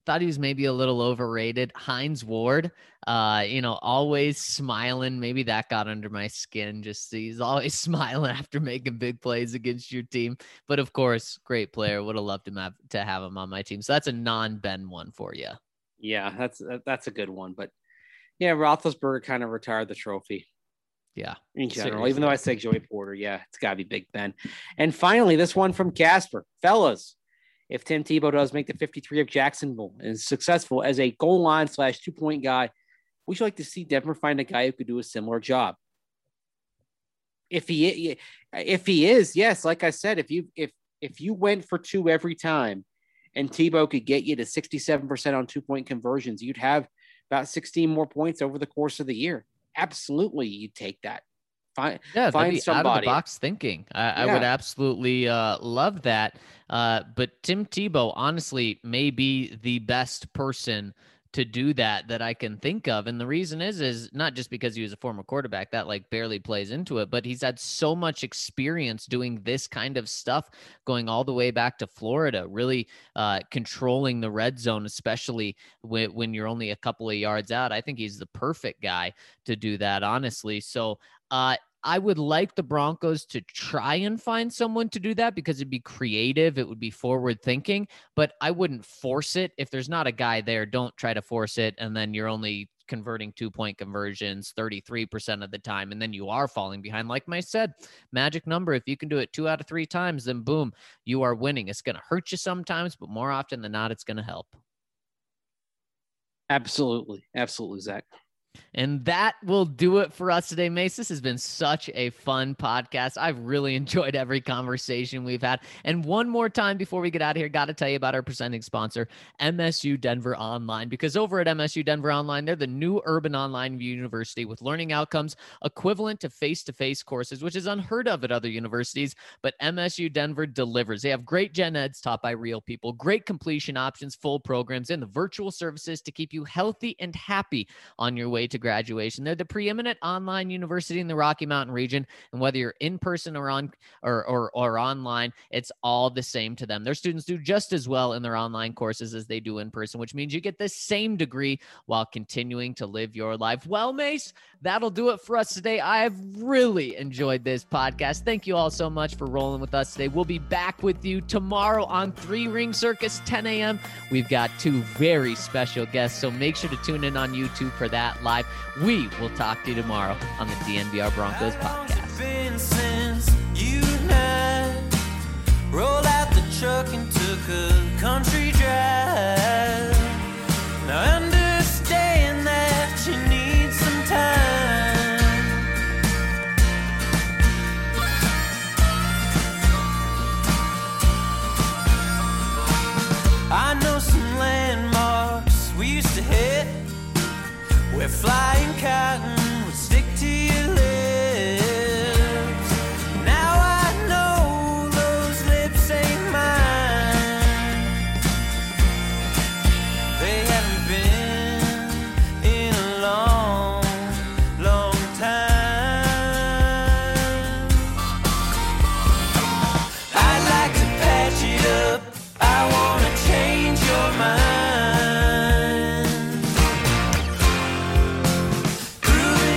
thought he was maybe a little overrated. Hines Ward, uh, you know, always smiling. Maybe that got under my skin. Just he's always smiling after making big plays against your team. But of course, great player. Would have loved him have, to have him on my team. So that's a non-Ben one for you. Yeah, that's that's a good one. But yeah, Roethlisberger kind of retired the trophy. Yeah, in general, seriously. Even though I say Joey Porter, yeah, it's got to be Big Ben. And finally, this one from Casper. Fellas, if Tim Tebow does make the fifty-three of Jacksonville and is successful as a goal line slash two-point guy, would you like to see Denver find a guy who could do a similar job? If he if he is, yes, like I said, if you if if you went for two every time and Tebow could get you to sixty-seven percent on two-point conversions, you'd have about sixteen more points over the course of the year. Absolutely, you take that. Find, yeah, find be somebody. Out of the box thinking. I, yeah. I would absolutely uh, love that. Uh, but Tim Tebow, honestly, may be the best person to do that that I can think of. And the reason is, is not just because he was a former quarterback that like barely plays into it, but he's had so much experience doing this kind of stuff, going all the way back to Florida, really uh, controlling the red zone, especially when, when you're only a couple of yards out. I think he's the perfect guy to do that, honestly. So uh, I would like the Broncos to try and find someone to do that because it'd be creative. It would be forward thinking, but I wouldn't force it. If there's not a guy there, don't try to force it. And then you're only converting two point conversions thirty-three percent of the time. And then you are falling behind. Like I said, magic number. If you can do it two out of three times, then boom, you are winning. It's going to hurt you sometimes, but more often than not, it's going to help. Absolutely. Absolutely, Zach. And that will do it for us today, Mace. This has been such a fun podcast. I've really enjoyed every conversation we've had. And one more time before we get out of here, got to tell you about our presenting sponsor, M S U Denver Online, because over at M S U Denver Online, they're the new urban online university with learning outcomes equivalent to face-to-face courses, which is unheard of at other universities, but M S U Denver delivers. They have great gen eds taught by real people, great completion options, full programs, and the virtual services to keep you healthy and happy on your way to graduation. They're the preeminent online university in the Rocky Mountain region, and whether you're in person or on or, or or online, it's all the same to them. Their students do just as well in their online courses as they do in person, which means you get the same degree while continuing to live your life. Well, Mace, that'll do it for us today. I've really enjoyed this podcast. Thank you all so much for rolling with us today. We'll be back with you tomorrow on Three Ring Circus, ten a.m. We've got two very special guests, so make sure to tune in on YouTube for that live. We will talk to you tomorrow on the D N V R Broncos podcast. Been since you and I rolled out the truck and took a country drive. Now understand that you need some time. I know some landmarks we used to hit where flying cotton would stick to your lips. Now I know those lips ain't mine. They haven't been in a long, long time. I'd like to patch it up. I wanna change your mind. Prove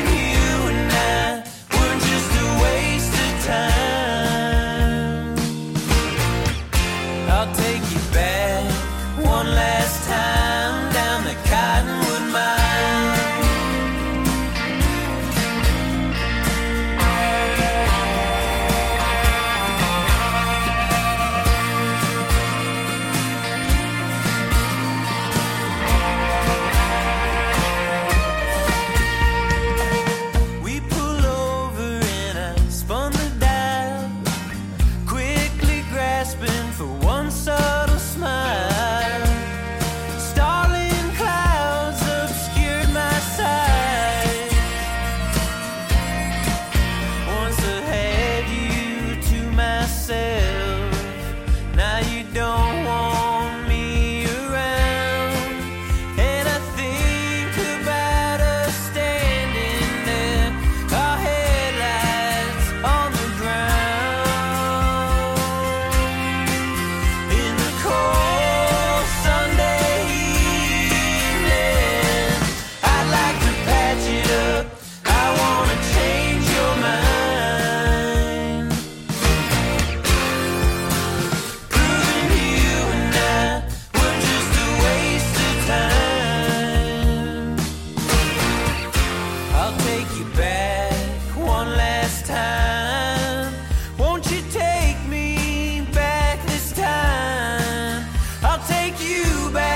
you back.